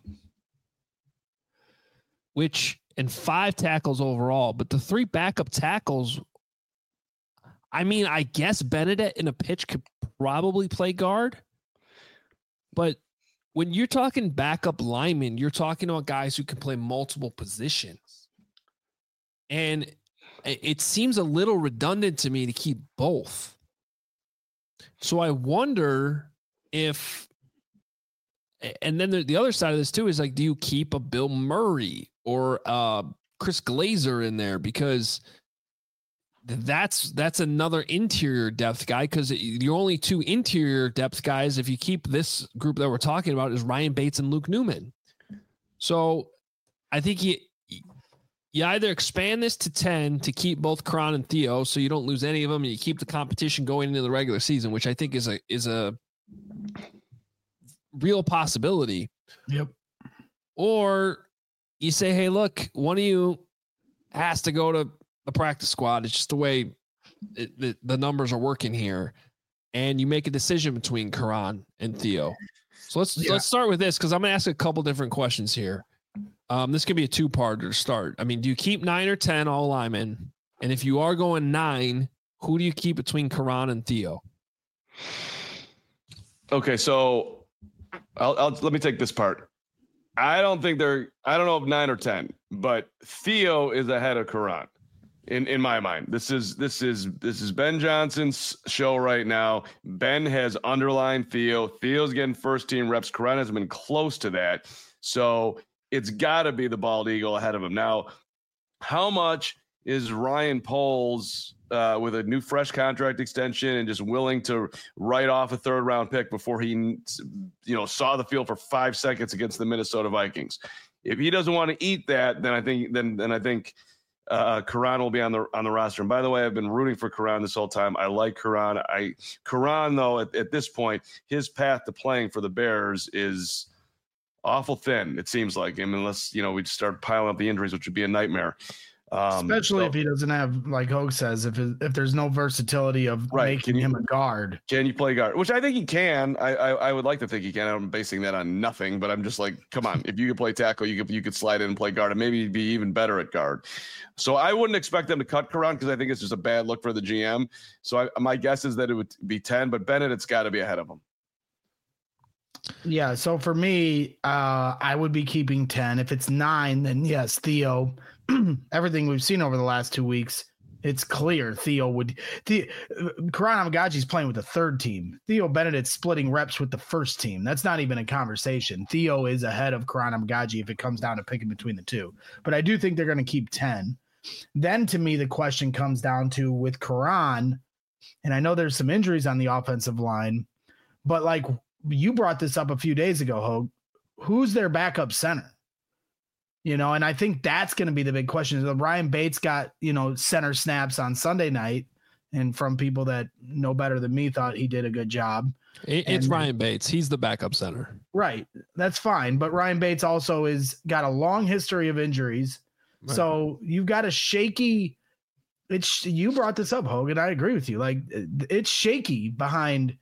and 5 tackles overall. But the 3 backup tackles, I mean, I guess Benedict in a pitch could probably play guard, but when you're talking backup linemen, you're talking about guys who can play multiple positions. And it seems a little redundant to me to keep both. So I wonder if, and then the other side of this too is like, do you keep a Bill Murray or Chris Glazer in there? Because that's another interior depth guy, because your only two interior depth guys, if you keep this group that we're talking about, is Ryan Bates and Luke Newman. So I think you either expand this to 10 to keep both Karan and Theo so you don't lose any of them, and you keep the competition going into the regular season, which I think is a real possibility. Yep. Or you say, hey, look, one of you has to go to the practice squad. It's just the way the numbers are working here. And you make a decision between Karan and Theo. So let's start with this, because I'm going to ask a couple different questions here. This could be a two-parter to start. I mean, do you keep 9 or 10 all linemen? And if you are going 9, who do you keep between Karan and Theo? Okay, so let me take this part. I don't know if 9 or 10, but Theo is ahead of Karan in my mind. This is Ben Johnson's show right now. Ben has underlined Theo. Theo's getting first team reps. Karan has been close to that. So it's got to be the bald eagle ahead of him. Now, how much is Ryan Poles with a new fresh contract extension and just willing to write off a third round pick before he, saw the field for 5 seconds against the Minnesota Vikings? If he doesn't want to eat that, then I think Karan will be on the roster. And by the way, I've been rooting for Karan this whole time. I like Karan. Karan though, at this point, his path to playing for the Bears is awful thin, it seems like. I mean, unless we start piling up the injuries, which would be a nightmare. Especially if he doesn't have, like Hogue says, if there's no versatility of making him a guard. Can you play guard? Which I think he can. I would like to think he can. I'm basing that on nothing, but I'm just like, come on. If you could play tackle, you could slide in and play guard, and maybe be even better at guard. So I wouldn't expect them to cut Karan, because I think it's just a bad look for the GM. So my guess is that it would be 10, but Bennett, it's got to be ahead of him. Yeah, so for me, I would be keeping 10. If it's 9, then yes, Theo. Everything we've seen over the last 2 weeks, it's clear Theo would. Karan Amagaji's playing with the third team. Theo Bennett's splitting reps with the first team. That's not even a conversation. Theo is ahead of Karan Amagaji if it comes down to picking between the two. But I do think they're going to keep 10. Then to me, the question comes down to with Karan, and I know there's some injuries on the offensive line, but like you brought this up a few days ago, Hogue, who's their backup center? And I think that's going to be the big question. Ryan Bates got, center snaps on Sunday night, and from people that know better than me thought he did a good job. It's Ryan Bates. He's the backup center. Right. That's fine. But Ryan Bates also got a long history of injuries. Right. So you've got a shaky, you brought this up, Hogue, and I agree with you. Like, it's shaky behind,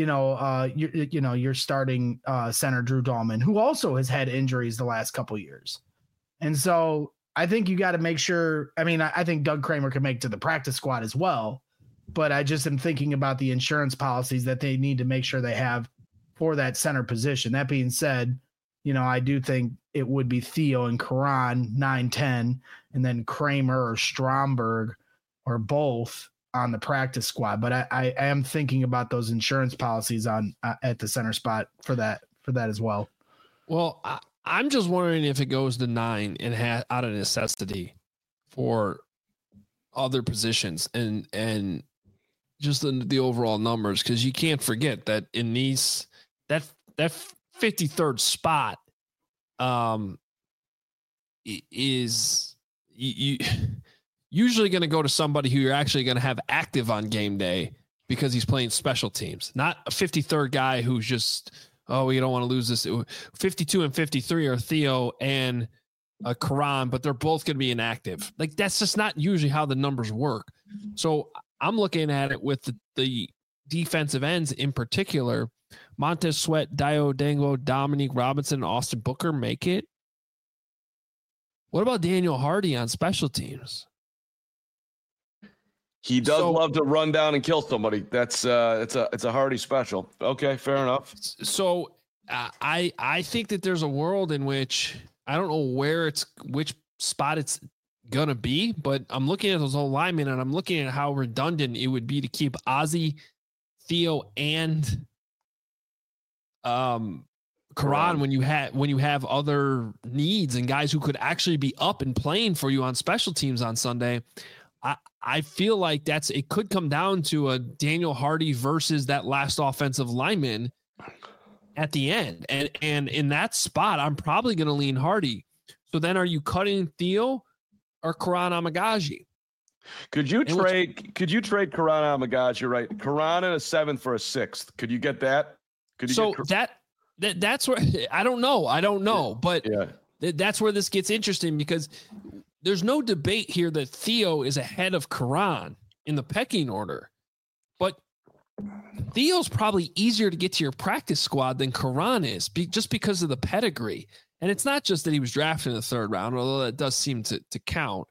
your starting center, Drew Dahlman, who also has had injuries the last couple of years. And so I think you got to make sure. I mean, I think Doug Kramer can make to the practice squad as well, but I just am thinking about the insurance policies that they need to make sure they have for that center position. That being said, I do think it would be Theo and Karan 9-10, and then Kramer or Stromberg or both on the practice squad. But I am thinking about those insurance policies on at the center spot for that as well. Well, I'm just wondering if it goes to 9 and out of necessity for other positions and just the overall numbers, because you can't forget that in that 53rd spot is you usually going to go to somebody who you're actually going to have active on game day because he's playing special teams, not a 53rd guy who's just, oh, we don't want to lose this. 52 and 53 are Theo and Karan, but they're both going to be inactive. Like, that's just not usually how the numbers work. So I'm looking at it with the defensive ends in particular. Montez Sweat, Dayo Dango, Dominique Robinson, and Austin Booker make it. What about Daniel Hardy on special teams? He does love to run down and kill somebody. That's it's a Hardy special. Okay, fair enough. So I think that there's a world in which I don't know which spot it's gonna be, but I'm looking at those whole linemen and I'm looking at how redundant it would be to keep Ozzie, Theo, and Karan when you have other needs and guys who could actually be up and playing for you on special teams on Sunday. I feel like it could come down to a Daniel Hardy versus that last offensive lineman at the end. And in that spot, I'm probably going to lean Hardy. So then are you cutting Theo or Karan Amagaji? Could you trade Karan Amagaji, right? Karan in a 7th for a 6th. Could you get that? That's where I don't know, but that's where this gets interesting because there's no debate here that Theo is ahead of Karan in the pecking order, but Theo's probably easier to get to your practice squad than Karan is just because of the pedigree. And it's not just that he was drafted in the 3rd round, although that does seem to count.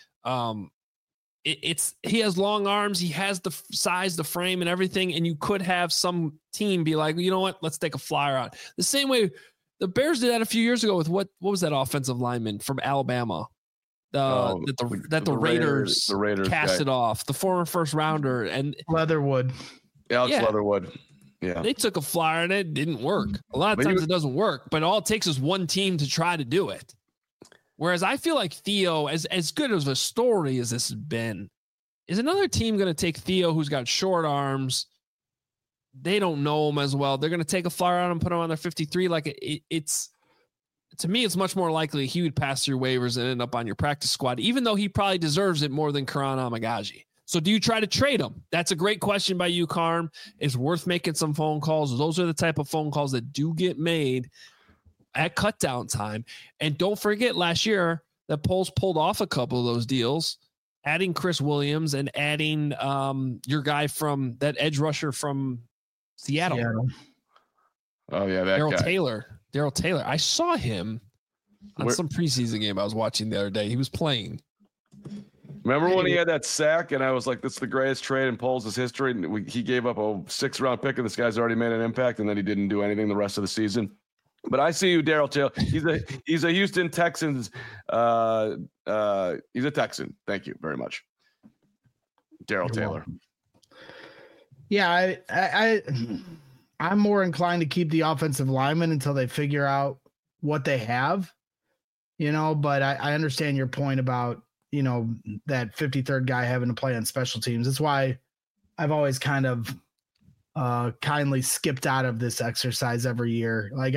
He has long arms. He has the size, the frame and everything. And you could have some team be like, you know what, let's take a flyer on the same way the Bears did that a few years ago with what was that offensive lineman from Alabama? The Raiders casted off, the former 1st rounder and Leatherwood. Alex Leatherwood. Yeah. They took a flyer and it didn't work. A lot of times it doesn't work, but all it takes is one team to try to do it. Whereas I feel like Theo, as good as a story as this has been, is another team going to take Theo who's got short arms. They don't know him as well. They're going to take a flyer on him, put him on their 53. Like it's to me, it's much more likely he would pass through waivers and end up on your practice squad, even though he probably deserves it more than Karan Amagaji. So do you try to trade him? That's a great question by you, Carm. It's worth making some phone calls. Those are the type of phone calls that do get made at cut down time. And don't forget last year that Poles pulled off a couple of those deals, adding Chris Williams and adding your guy from that edge rusher from Seattle. Oh yeah, that guy. Daryl Taylor. I saw him on some preseason game I was watching the other day. He was playing. Remember when he had that sack and I was like, that's the greatest trade in Poles' history. And he gave up a 6th round pick and this guy's already made an impact and then he didn't do anything the rest of the season. But I see you, Daryl Taylor. He's a Houston Texans. He's a Texan. Thank you very much. Daryl Taylor. Welcome. Yeah, I'm more inclined to keep the offensive linemen until they figure out what they have, but I understand your point about, that 53rd guy having to play on special teams. That's why I've always kind of kindly skipped out of this exercise every year. Like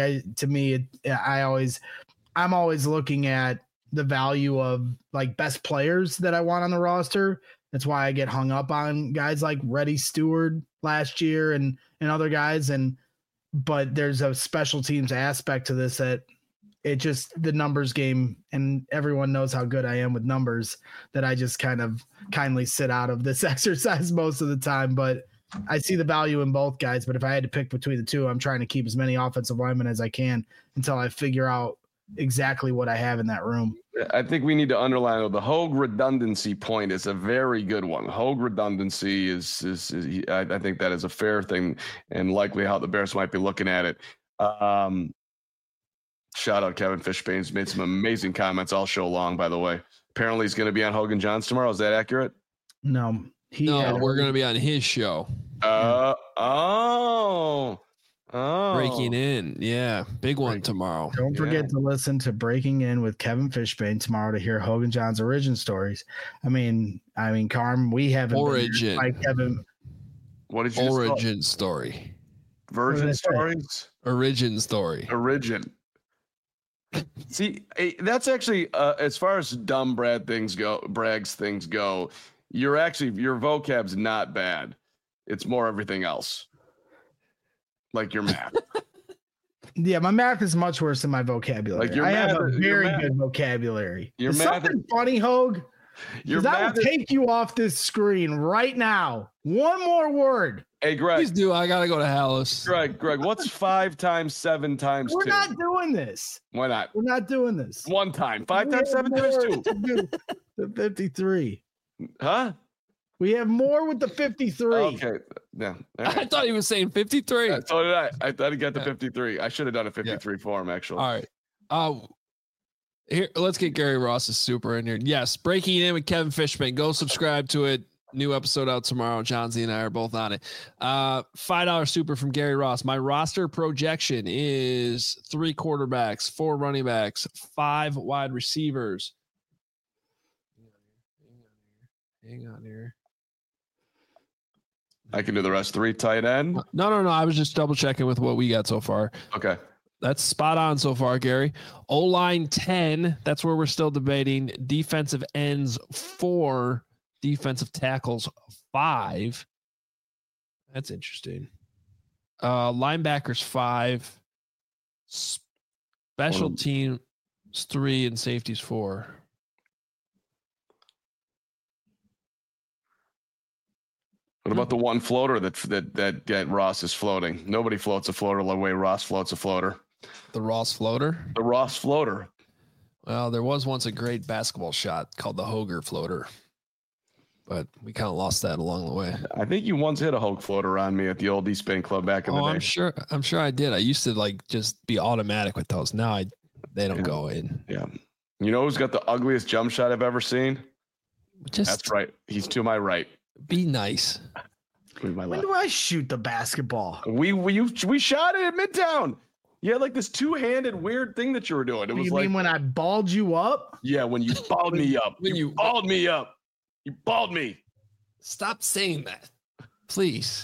I'm always looking at the value of like best players that I want on the roster. That's why I get hung up on guys like Reddy Stewart last year and other guys. But there's a special teams aspect to this that it just the numbers game, and everyone knows how good I am with numbers, that I just kind of kindly sit out of this exercise most of the time. But I see the value in both guys. But if I had to pick between the two, I'm trying to keep as many offensive linemen as I can until I figure out exactly what I have in that room. I think we need to underline the Hogue redundancy point is a very good one. Hogue redundancy is I think that is a fair thing and likely how the Bears might be looking at it. Shout out Kevin Fishbane. He's made some amazing comments all show long, by the way. Apparently he's going to be on Hogan Johns tomorrow. Is that accurate? No. We're going to be on his show. Breaking In. Yeah. Big one tomorrow. Don't forget to listen to Breaking In with Kevin Fishbane tomorrow to hear Hogan John's origin stories. I mean, Carm, we haven't origin. Like Kevin. What did you origin story? Virgin stories? Origin story. Origin. See, that's actually as far as dumb Bragg's things go, your vocab's not bad. It's more everything else. Like your math. Yeah, my math is much worse than my vocabulary. Like I have a very good vocabulary. Your math something funny, Hogue? Because I will take you off this screen right now. One more word. Hey, Greg. Please do. I got to go to Hallis. Greg, what's 5 times 7 times 2? We're not doing this. Why not? We're not doing this. One time. 5 times 7 times 2. The 53. Huh? We have more with the 53. Okay. Yeah. All right. I thought he was saying 53. So did I. I thought he got the 53. I should have done a 53 for him, actually. All right. Here, let's get Gary Ross's super in here. Yes, Breaking In with Kevin Fishman. Go subscribe to it. New episode out tomorrow. John Z and I are both on it. $5 super from Gary Ross. My roster projection is 3 quarterbacks, 4 running backs, 5 wide receivers. Hang on here. I can do the rest. 3 tight end. No. I was just double checking with what we got so far. Okay. That's spot on so far, Gary. O-line 10. That's where we're still debating. Defensive ends 4. Defensive tackles 5. That's interesting. Linebackers 5. Special teams 3 and safeties 4. What about the one floater that Ross is floating? Nobody floats a floater the way Ross floats a floater. The Ross floater? The Ross floater. Well, there was once a great basketball shot called the Hoger floater, but we kind of lost that along the way. I think you once hit a Hogue floater on me at the old East Spain Club back in the day. I'm sure I did. I used to just be automatic with those. Now they don't go in. Yeah. You know who's got the ugliest jump shot I've ever seen? That's right. He's to my right. Be nice. When do I shoot the basketball? We shot it at Midtown. You had like this 2-handed weird thing that you were doing. It was mean when I balled you up? Yeah, when you balled me up. You balled me up. You balled me. Stop saying that, please.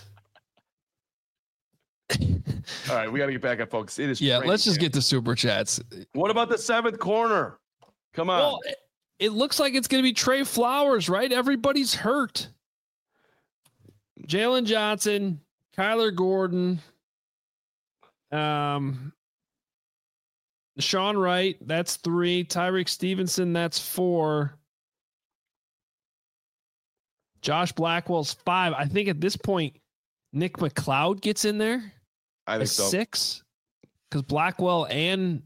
All right, we got to get back up, folks. It is. Yeah, let's just get the super chats. What about the 7th corner? Come on. Well, it looks like it's going to be Trey Flowers, right? Everybody's hurt. Jalen Johnson, Kyler Gordon, Sean Wright, that's 3. Tyreek Stevenson, that's 4. Josh Blackwell's 5. I think at this point, Nick McLeod gets in there. I think so. 6. Because Blackwell and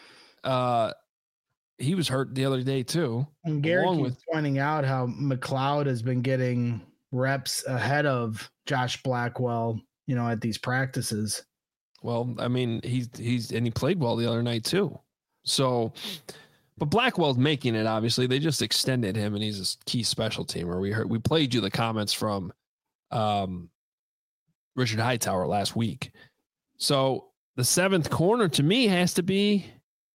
he was hurt the other day too. And Gary keeps pointing out how McLeod has been getting reps ahead of Josh Blackwell, at these practices. Well, I mean, he played well the other night too. So, but Blackwell's making it. Obviously, they just extended him, and he's a key special teamer. We played you the comments from Richard Hightower last week. So the 7th corner to me has to be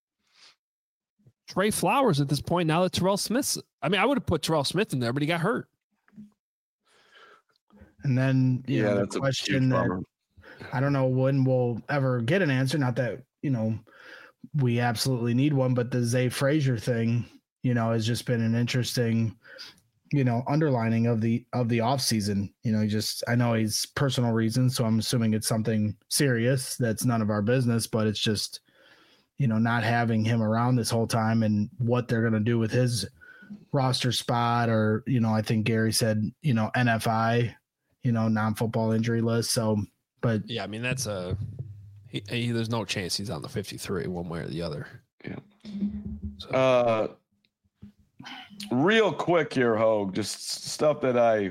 Trey Flowers at this point. Now that Terrell Smith's, I mean, I would have put Terrell Smith in there, but he got hurt. And then, that's the question that I don't know when we'll ever get an answer. Not that, we absolutely need one, but the Zay Frazier thing, has just been an interesting, underlining of the off season. I know he's personal reasons, so I'm assuming it's something serious that's none of our business, but it's just, not having him around this whole time and what they're going to do with his roster spot, or, I think Gary said, NFI, non-football injury list. So, but yeah, I mean, that's there's no chance he's on the 53 one way or the other. Yeah. So. Real quick here, Hogue, just stuff that I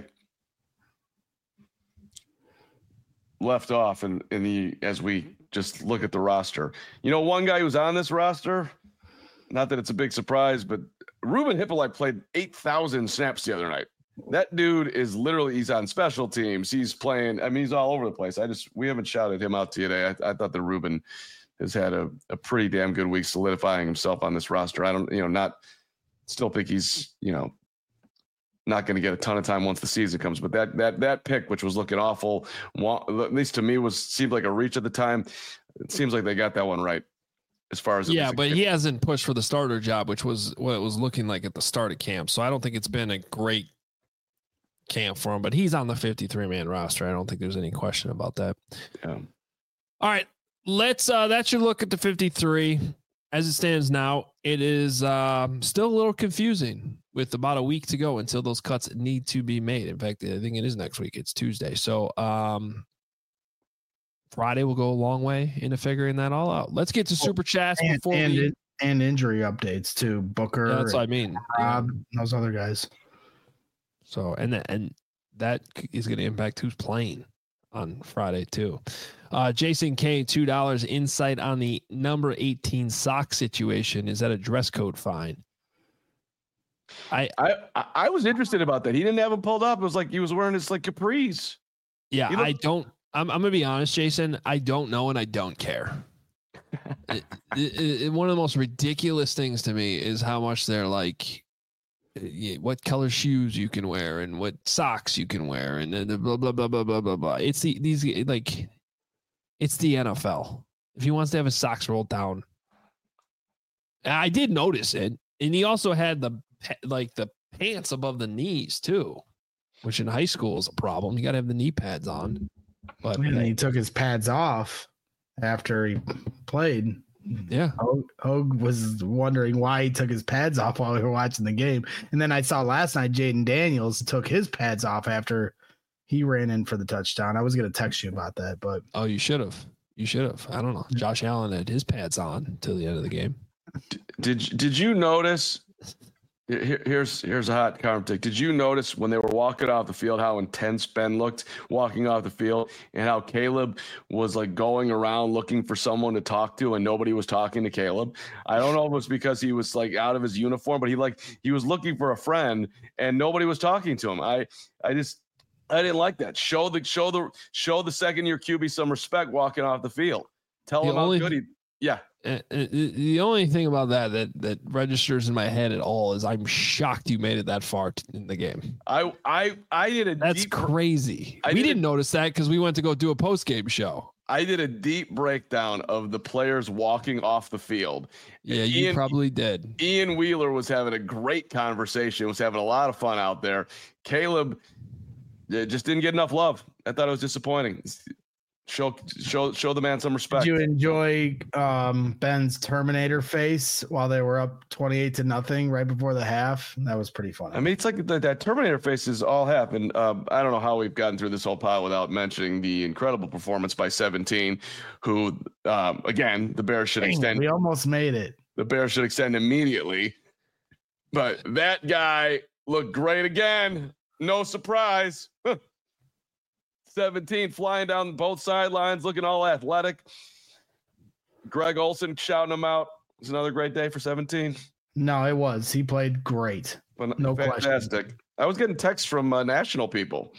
left off as we just look at the roster. One guy who's on this roster, not that it's a big surprise, but Ruben Hippolyte played 8,000 snaps the other night. That dude is literally, he's on special teams. He's playing, I mean, he's all over the place. We haven't shouted him out to you today. I thought that Ruben has had a pretty damn good week solidifying himself on this roster. I don't, still think he's, not going to get a ton of time once the season comes, but that pick, which was looking awful, at least to me, seemed like a reach at the time. It seems like they got that one right as far as but he hasn't pushed for the starter job, which was what it was looking like at the start of camp. So I don't think it's been a great camp for him, but he's on the 53-man roster. I don't think there's any question about that. Yeah. All right, that's your look at the 53. As it stands now, it is still a little confusing with about a week to go until those cuts need to be made. In fact, I think it is next week. It's Tuesday. So Friday will go a long way into figuring that all out. Let's get to super chats and injury updates too. Booker. Yeah, that's what I mean. Rob, those other guys. So, and that is going to impact who's playing on Friday too. Jason K, $2 insight on the number 18 sock situation. Is that a dress code fine? I was interested about that. He didn't have him pulled up. It was like he was wearing his like capris. Yeah, I'm going to be honest, Jason. I don't know and I don't care. One of the most ridiculous things to me is how much they're like, what color shoes you can wear and what socks you can wear and blah blah blah blah blah blah blah. It's the NFL. If he wants to have his socks rolled down, I did notice it, and he also had the pants above the knees too, which in high school is a problem. You got to have the knee pads on. But and he took his pads off after he played. Yeah. Hogue was wondering why he took his pads off while we were watching the game. And then I saw last night Jaden Daniels took his pads off after he ran in for the touchdown. I was going to text you about that, but. Oh, you should have. I don't know. Josh Allen had his pads on till the end of the game. Did you notice? Here's a hot comment. Did you notice when they were walking off the field how intense Ben looked walking off the field and how Caleb was like going around looking for someone to talk to and nobody was talking to Caleb? I don't know if it was because he was like out of his uniform, but he was looking for a friend and nobody was talking to him. I didn't like that. Show the second year QB some respect walking off the field. Tell him how good he. Yeah. The only thing about that registers in my head at all is I'm shocked you made it that far in the game. I did That's crazy. We didn't notice that because we went to go do a post game show. I did a deep breakdown of the players walking off the field. Yeah, you probably did. Ian Wheeler was having a great conversation. Was having a lot of fun out there. Caleb just didn't get enough love. I thought it was disappointing. Show the man some respect. Did you enjoy Ben's Terminator face while they were up 28-0 right before the half? That was pretty funny. I mean, it's like that Terminator face has all happened. I don't know how we've gotten through this whole pile without mentioning the incredible performance by 17, who, again, the Bears should extend. We almost made it. The Bears should extend immediately. But that guy looked great again. No surprise. 17 flying down both sidelines, looking all athletic. Greg Olsen shouting him out. It was another great day for 17. No, it was. He played great. No fantastic question. I was getting texts from national people.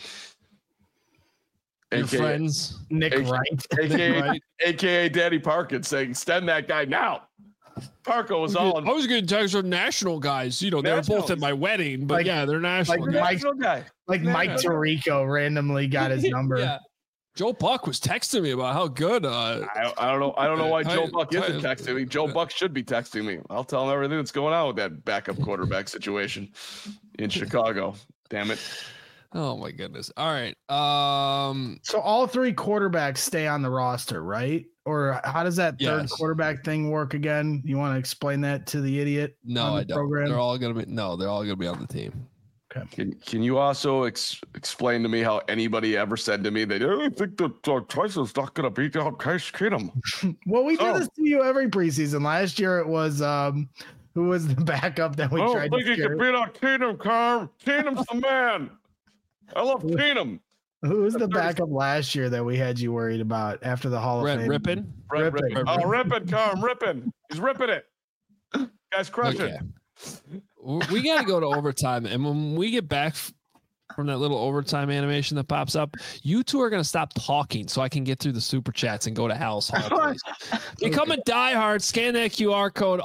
Your friends. Nick Wright. AKA Daddy Parkin saying, extend that guy now. Parko was all. I was getting texts from national guys. You know, they were both at my wedding, but they're national. Mike Tirico randomly got his number. Yeah. Joe Buck was texting me about how good. I don't know. I don't know why Joe Buck isn't texting me. Joe Buck should be texting me. I'll tell him everything that's going on with that backup quarterback situation in Chicago. Damn it. Oh my goodness. All right. So all three quarterbacks stay on the roster, right? Or how does that third quarterback thing work again? You want to explain that to the idiot? No, I don't. Program? They're all going to be on the team. Okay. Can you also explain to me how anybody ever said to me that I think that Tyson's not going to beat out Case Keenum? Well, we do this to you every preseason. Last year it was who was the backup that we tried to I think he can beat out Keenum, Carm. Keenum's the man. I love Keenum. Who was the backup last year that we had you worried about after the Hall of Fame? Rippin? Oh, Rippin, Carm, Rippin. He's ripping it. Guy's crushing. Okay. We got to go to overtime. And when we get back from that little overtime animation that pops up, you two are going to stop talking so I can get through the super chats and go to Hal's Hall. Become a diehard. Scan that QR code,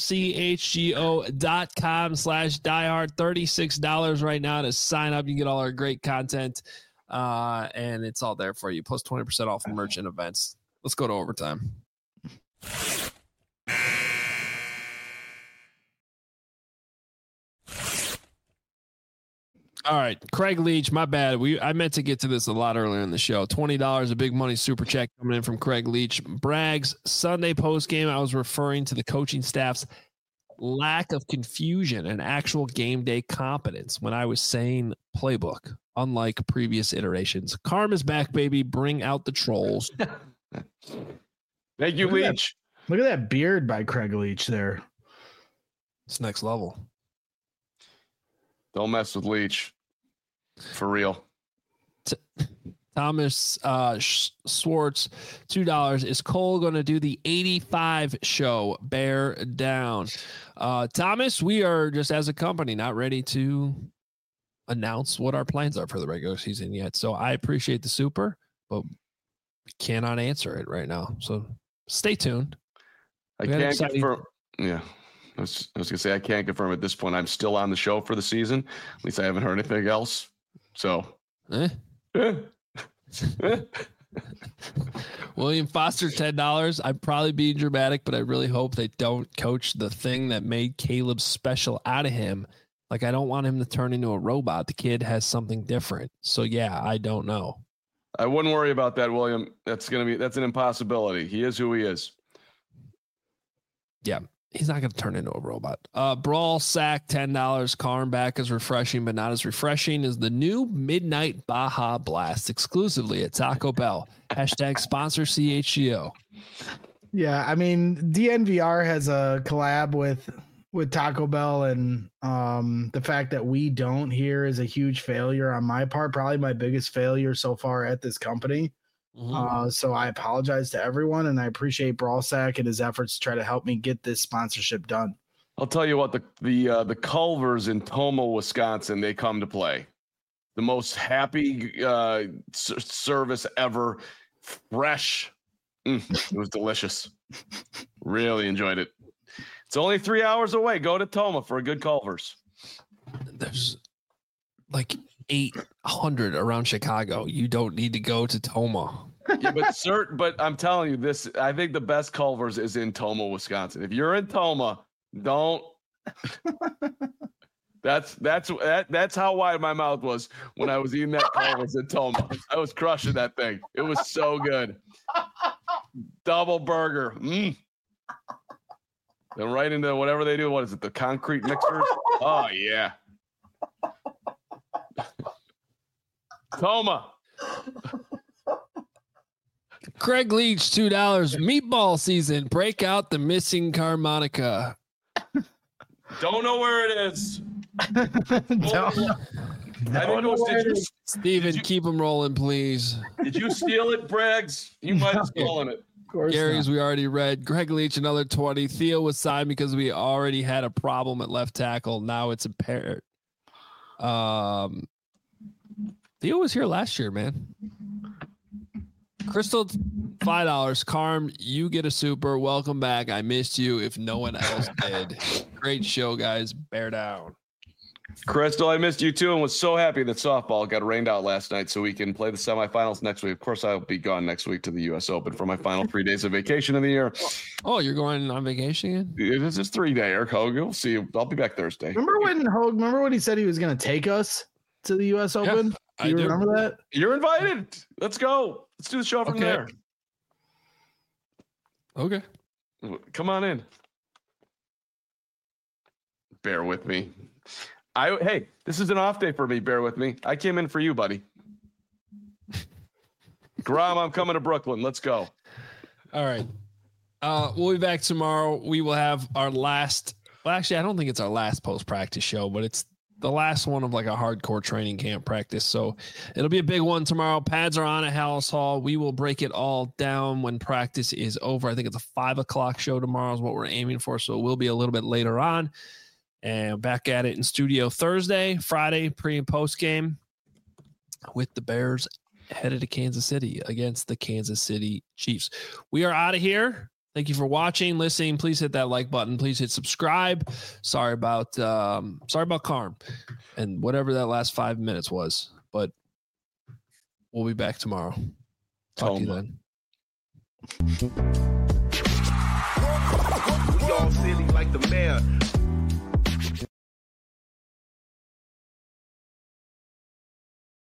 allchgo.com/diehard. $36 right now to sign up. You can get all our great content. And it's all there for you. Plus 20% off merch and events. Let's go to overtime. All right, Craig Leach, my bad. I meant to get to this a lot earlier in the show. $20, a big money super check coming in from Craig Leach. Bragg's Sunday post game, I was referring to the coaching staff's lack of confusion and actual game day competence when I was saying playbook, unlike previous iterations. Carm is back, baby. Bring out the trolls. Thank you, Leach. Look at that beard by Craig Leach there. It's next level. Don't mess with Leach. For real. Thomas Swartz, $2. Is Cole going to do the 85 show? Bear down. Thomas, we are just as a company not ready to announce what our plans are for the regular season yet. So I appreciate the super, but cannot answer it right now. So stay tuned. I can't confirm. Yeah. I was going to say, I can't confirm at this point. I'm still on the show for the season. At least I haven't heard anything else. So. William Foster, $10. I'm probably being dramatic, but I really hope they don't coach the thing that made Caleb special out of him. Like, I don't want him to turn into a robot. The kid has something different. So yeah, I don't know. I wouldn't worry about that, William. That's an impossibility. He is who he is. Yeah. He's not going to turn into a robot. Brawl Sack, $10. Karn back is refreshing, but not as refreshing as the new Midnight Baja Blast exclusively at Taco Bell. Hashtag sponsor CHGO. Yeah, I mean, DNVR has a collab with Taco Bell, and the fact that we don't here is a huge failure on my part. Probably my biggest failure so far at this company. So I apologize to everyone, and I appreciate Brawlsack and his efforts to try to help me get this sponsorship done. I'll tell you what, the Culvers in Tomah, Wisconsin, they come to play. The most happy service ever. Fresh. It was delicious. Really enjoyed it. It's only 3 hours away. Go to Tomah for a good Culvers. There's like 800 around Chicago. You don't need to go to Tomah. Yeah, but I'm telling you this. I think the best Culvers is in Tomah, Wisconsin. If you're in Tomah, don't. That's how wide my mouth was when I was eating that Culvers in Tomah. I was crushing that thing. It was so good. Double burger. Then right into whatever they do. What is it? The concrete mixers? Oh yeah. Tomah. Craig Leach, $2. Meatball season. Break out the missing harmonica. Don't know where it is. Steven, keep them rolling, please. Did you steal it, Braggs? You might have stolen it. Gary's we already read. Greg Leach, another 20. Theo was signed because we already had a problem at left tackle. Now it's impaired. Theo was here last year, man. Crystal, $5. Carm, you get a super. Welcome back. I missed you if no one else did. Great show, guys. Bear down. Crystal, I missed you too and was so happy that softball got rained out last night so we can play the semifinals next week. Of course, I'll be gone next week to the U.S. Open for my final 3 days of vacation of the year. Oh, you're going on vacation again? It's just 3 day, Eric Hogue. We'll see you. I'll be back Thursday. Remember when he said he was going to take us to the U.S. Open? Yeah, do you remember that? You're invited. Let's go. Let's do the show from there. Okay. Come on in. Bear with me. Hey, this is an off day for me. Bear with me. I came in for you, buddy. Grom, I'm coming to Brooklyn. Let's go. All right. We'll be back tomorrow. We will have our last. Well, actually, I don't think it's our last post-practice show, but it's the last one of like a hardcore training camp practice. So it'll be a big one tomorrow. Pads are on at Hallis Hall. We will break it all down when practice is over. I think it's a 5:00 show tomorrow is what we're aiming for. So it will be a little bit later on. And back at it in studio Thursday, Friday, pre and post game with the Bears headed to Kansas City against the Kansas City Chiefs. We are out of here. Thank you for watching, listening. Please hit that like button. Please hit subscribe. Sorry about Carm and whatever that last 5 minutes was, but we'll be back tomorrow. Talk to you then. We all silly like the mayor.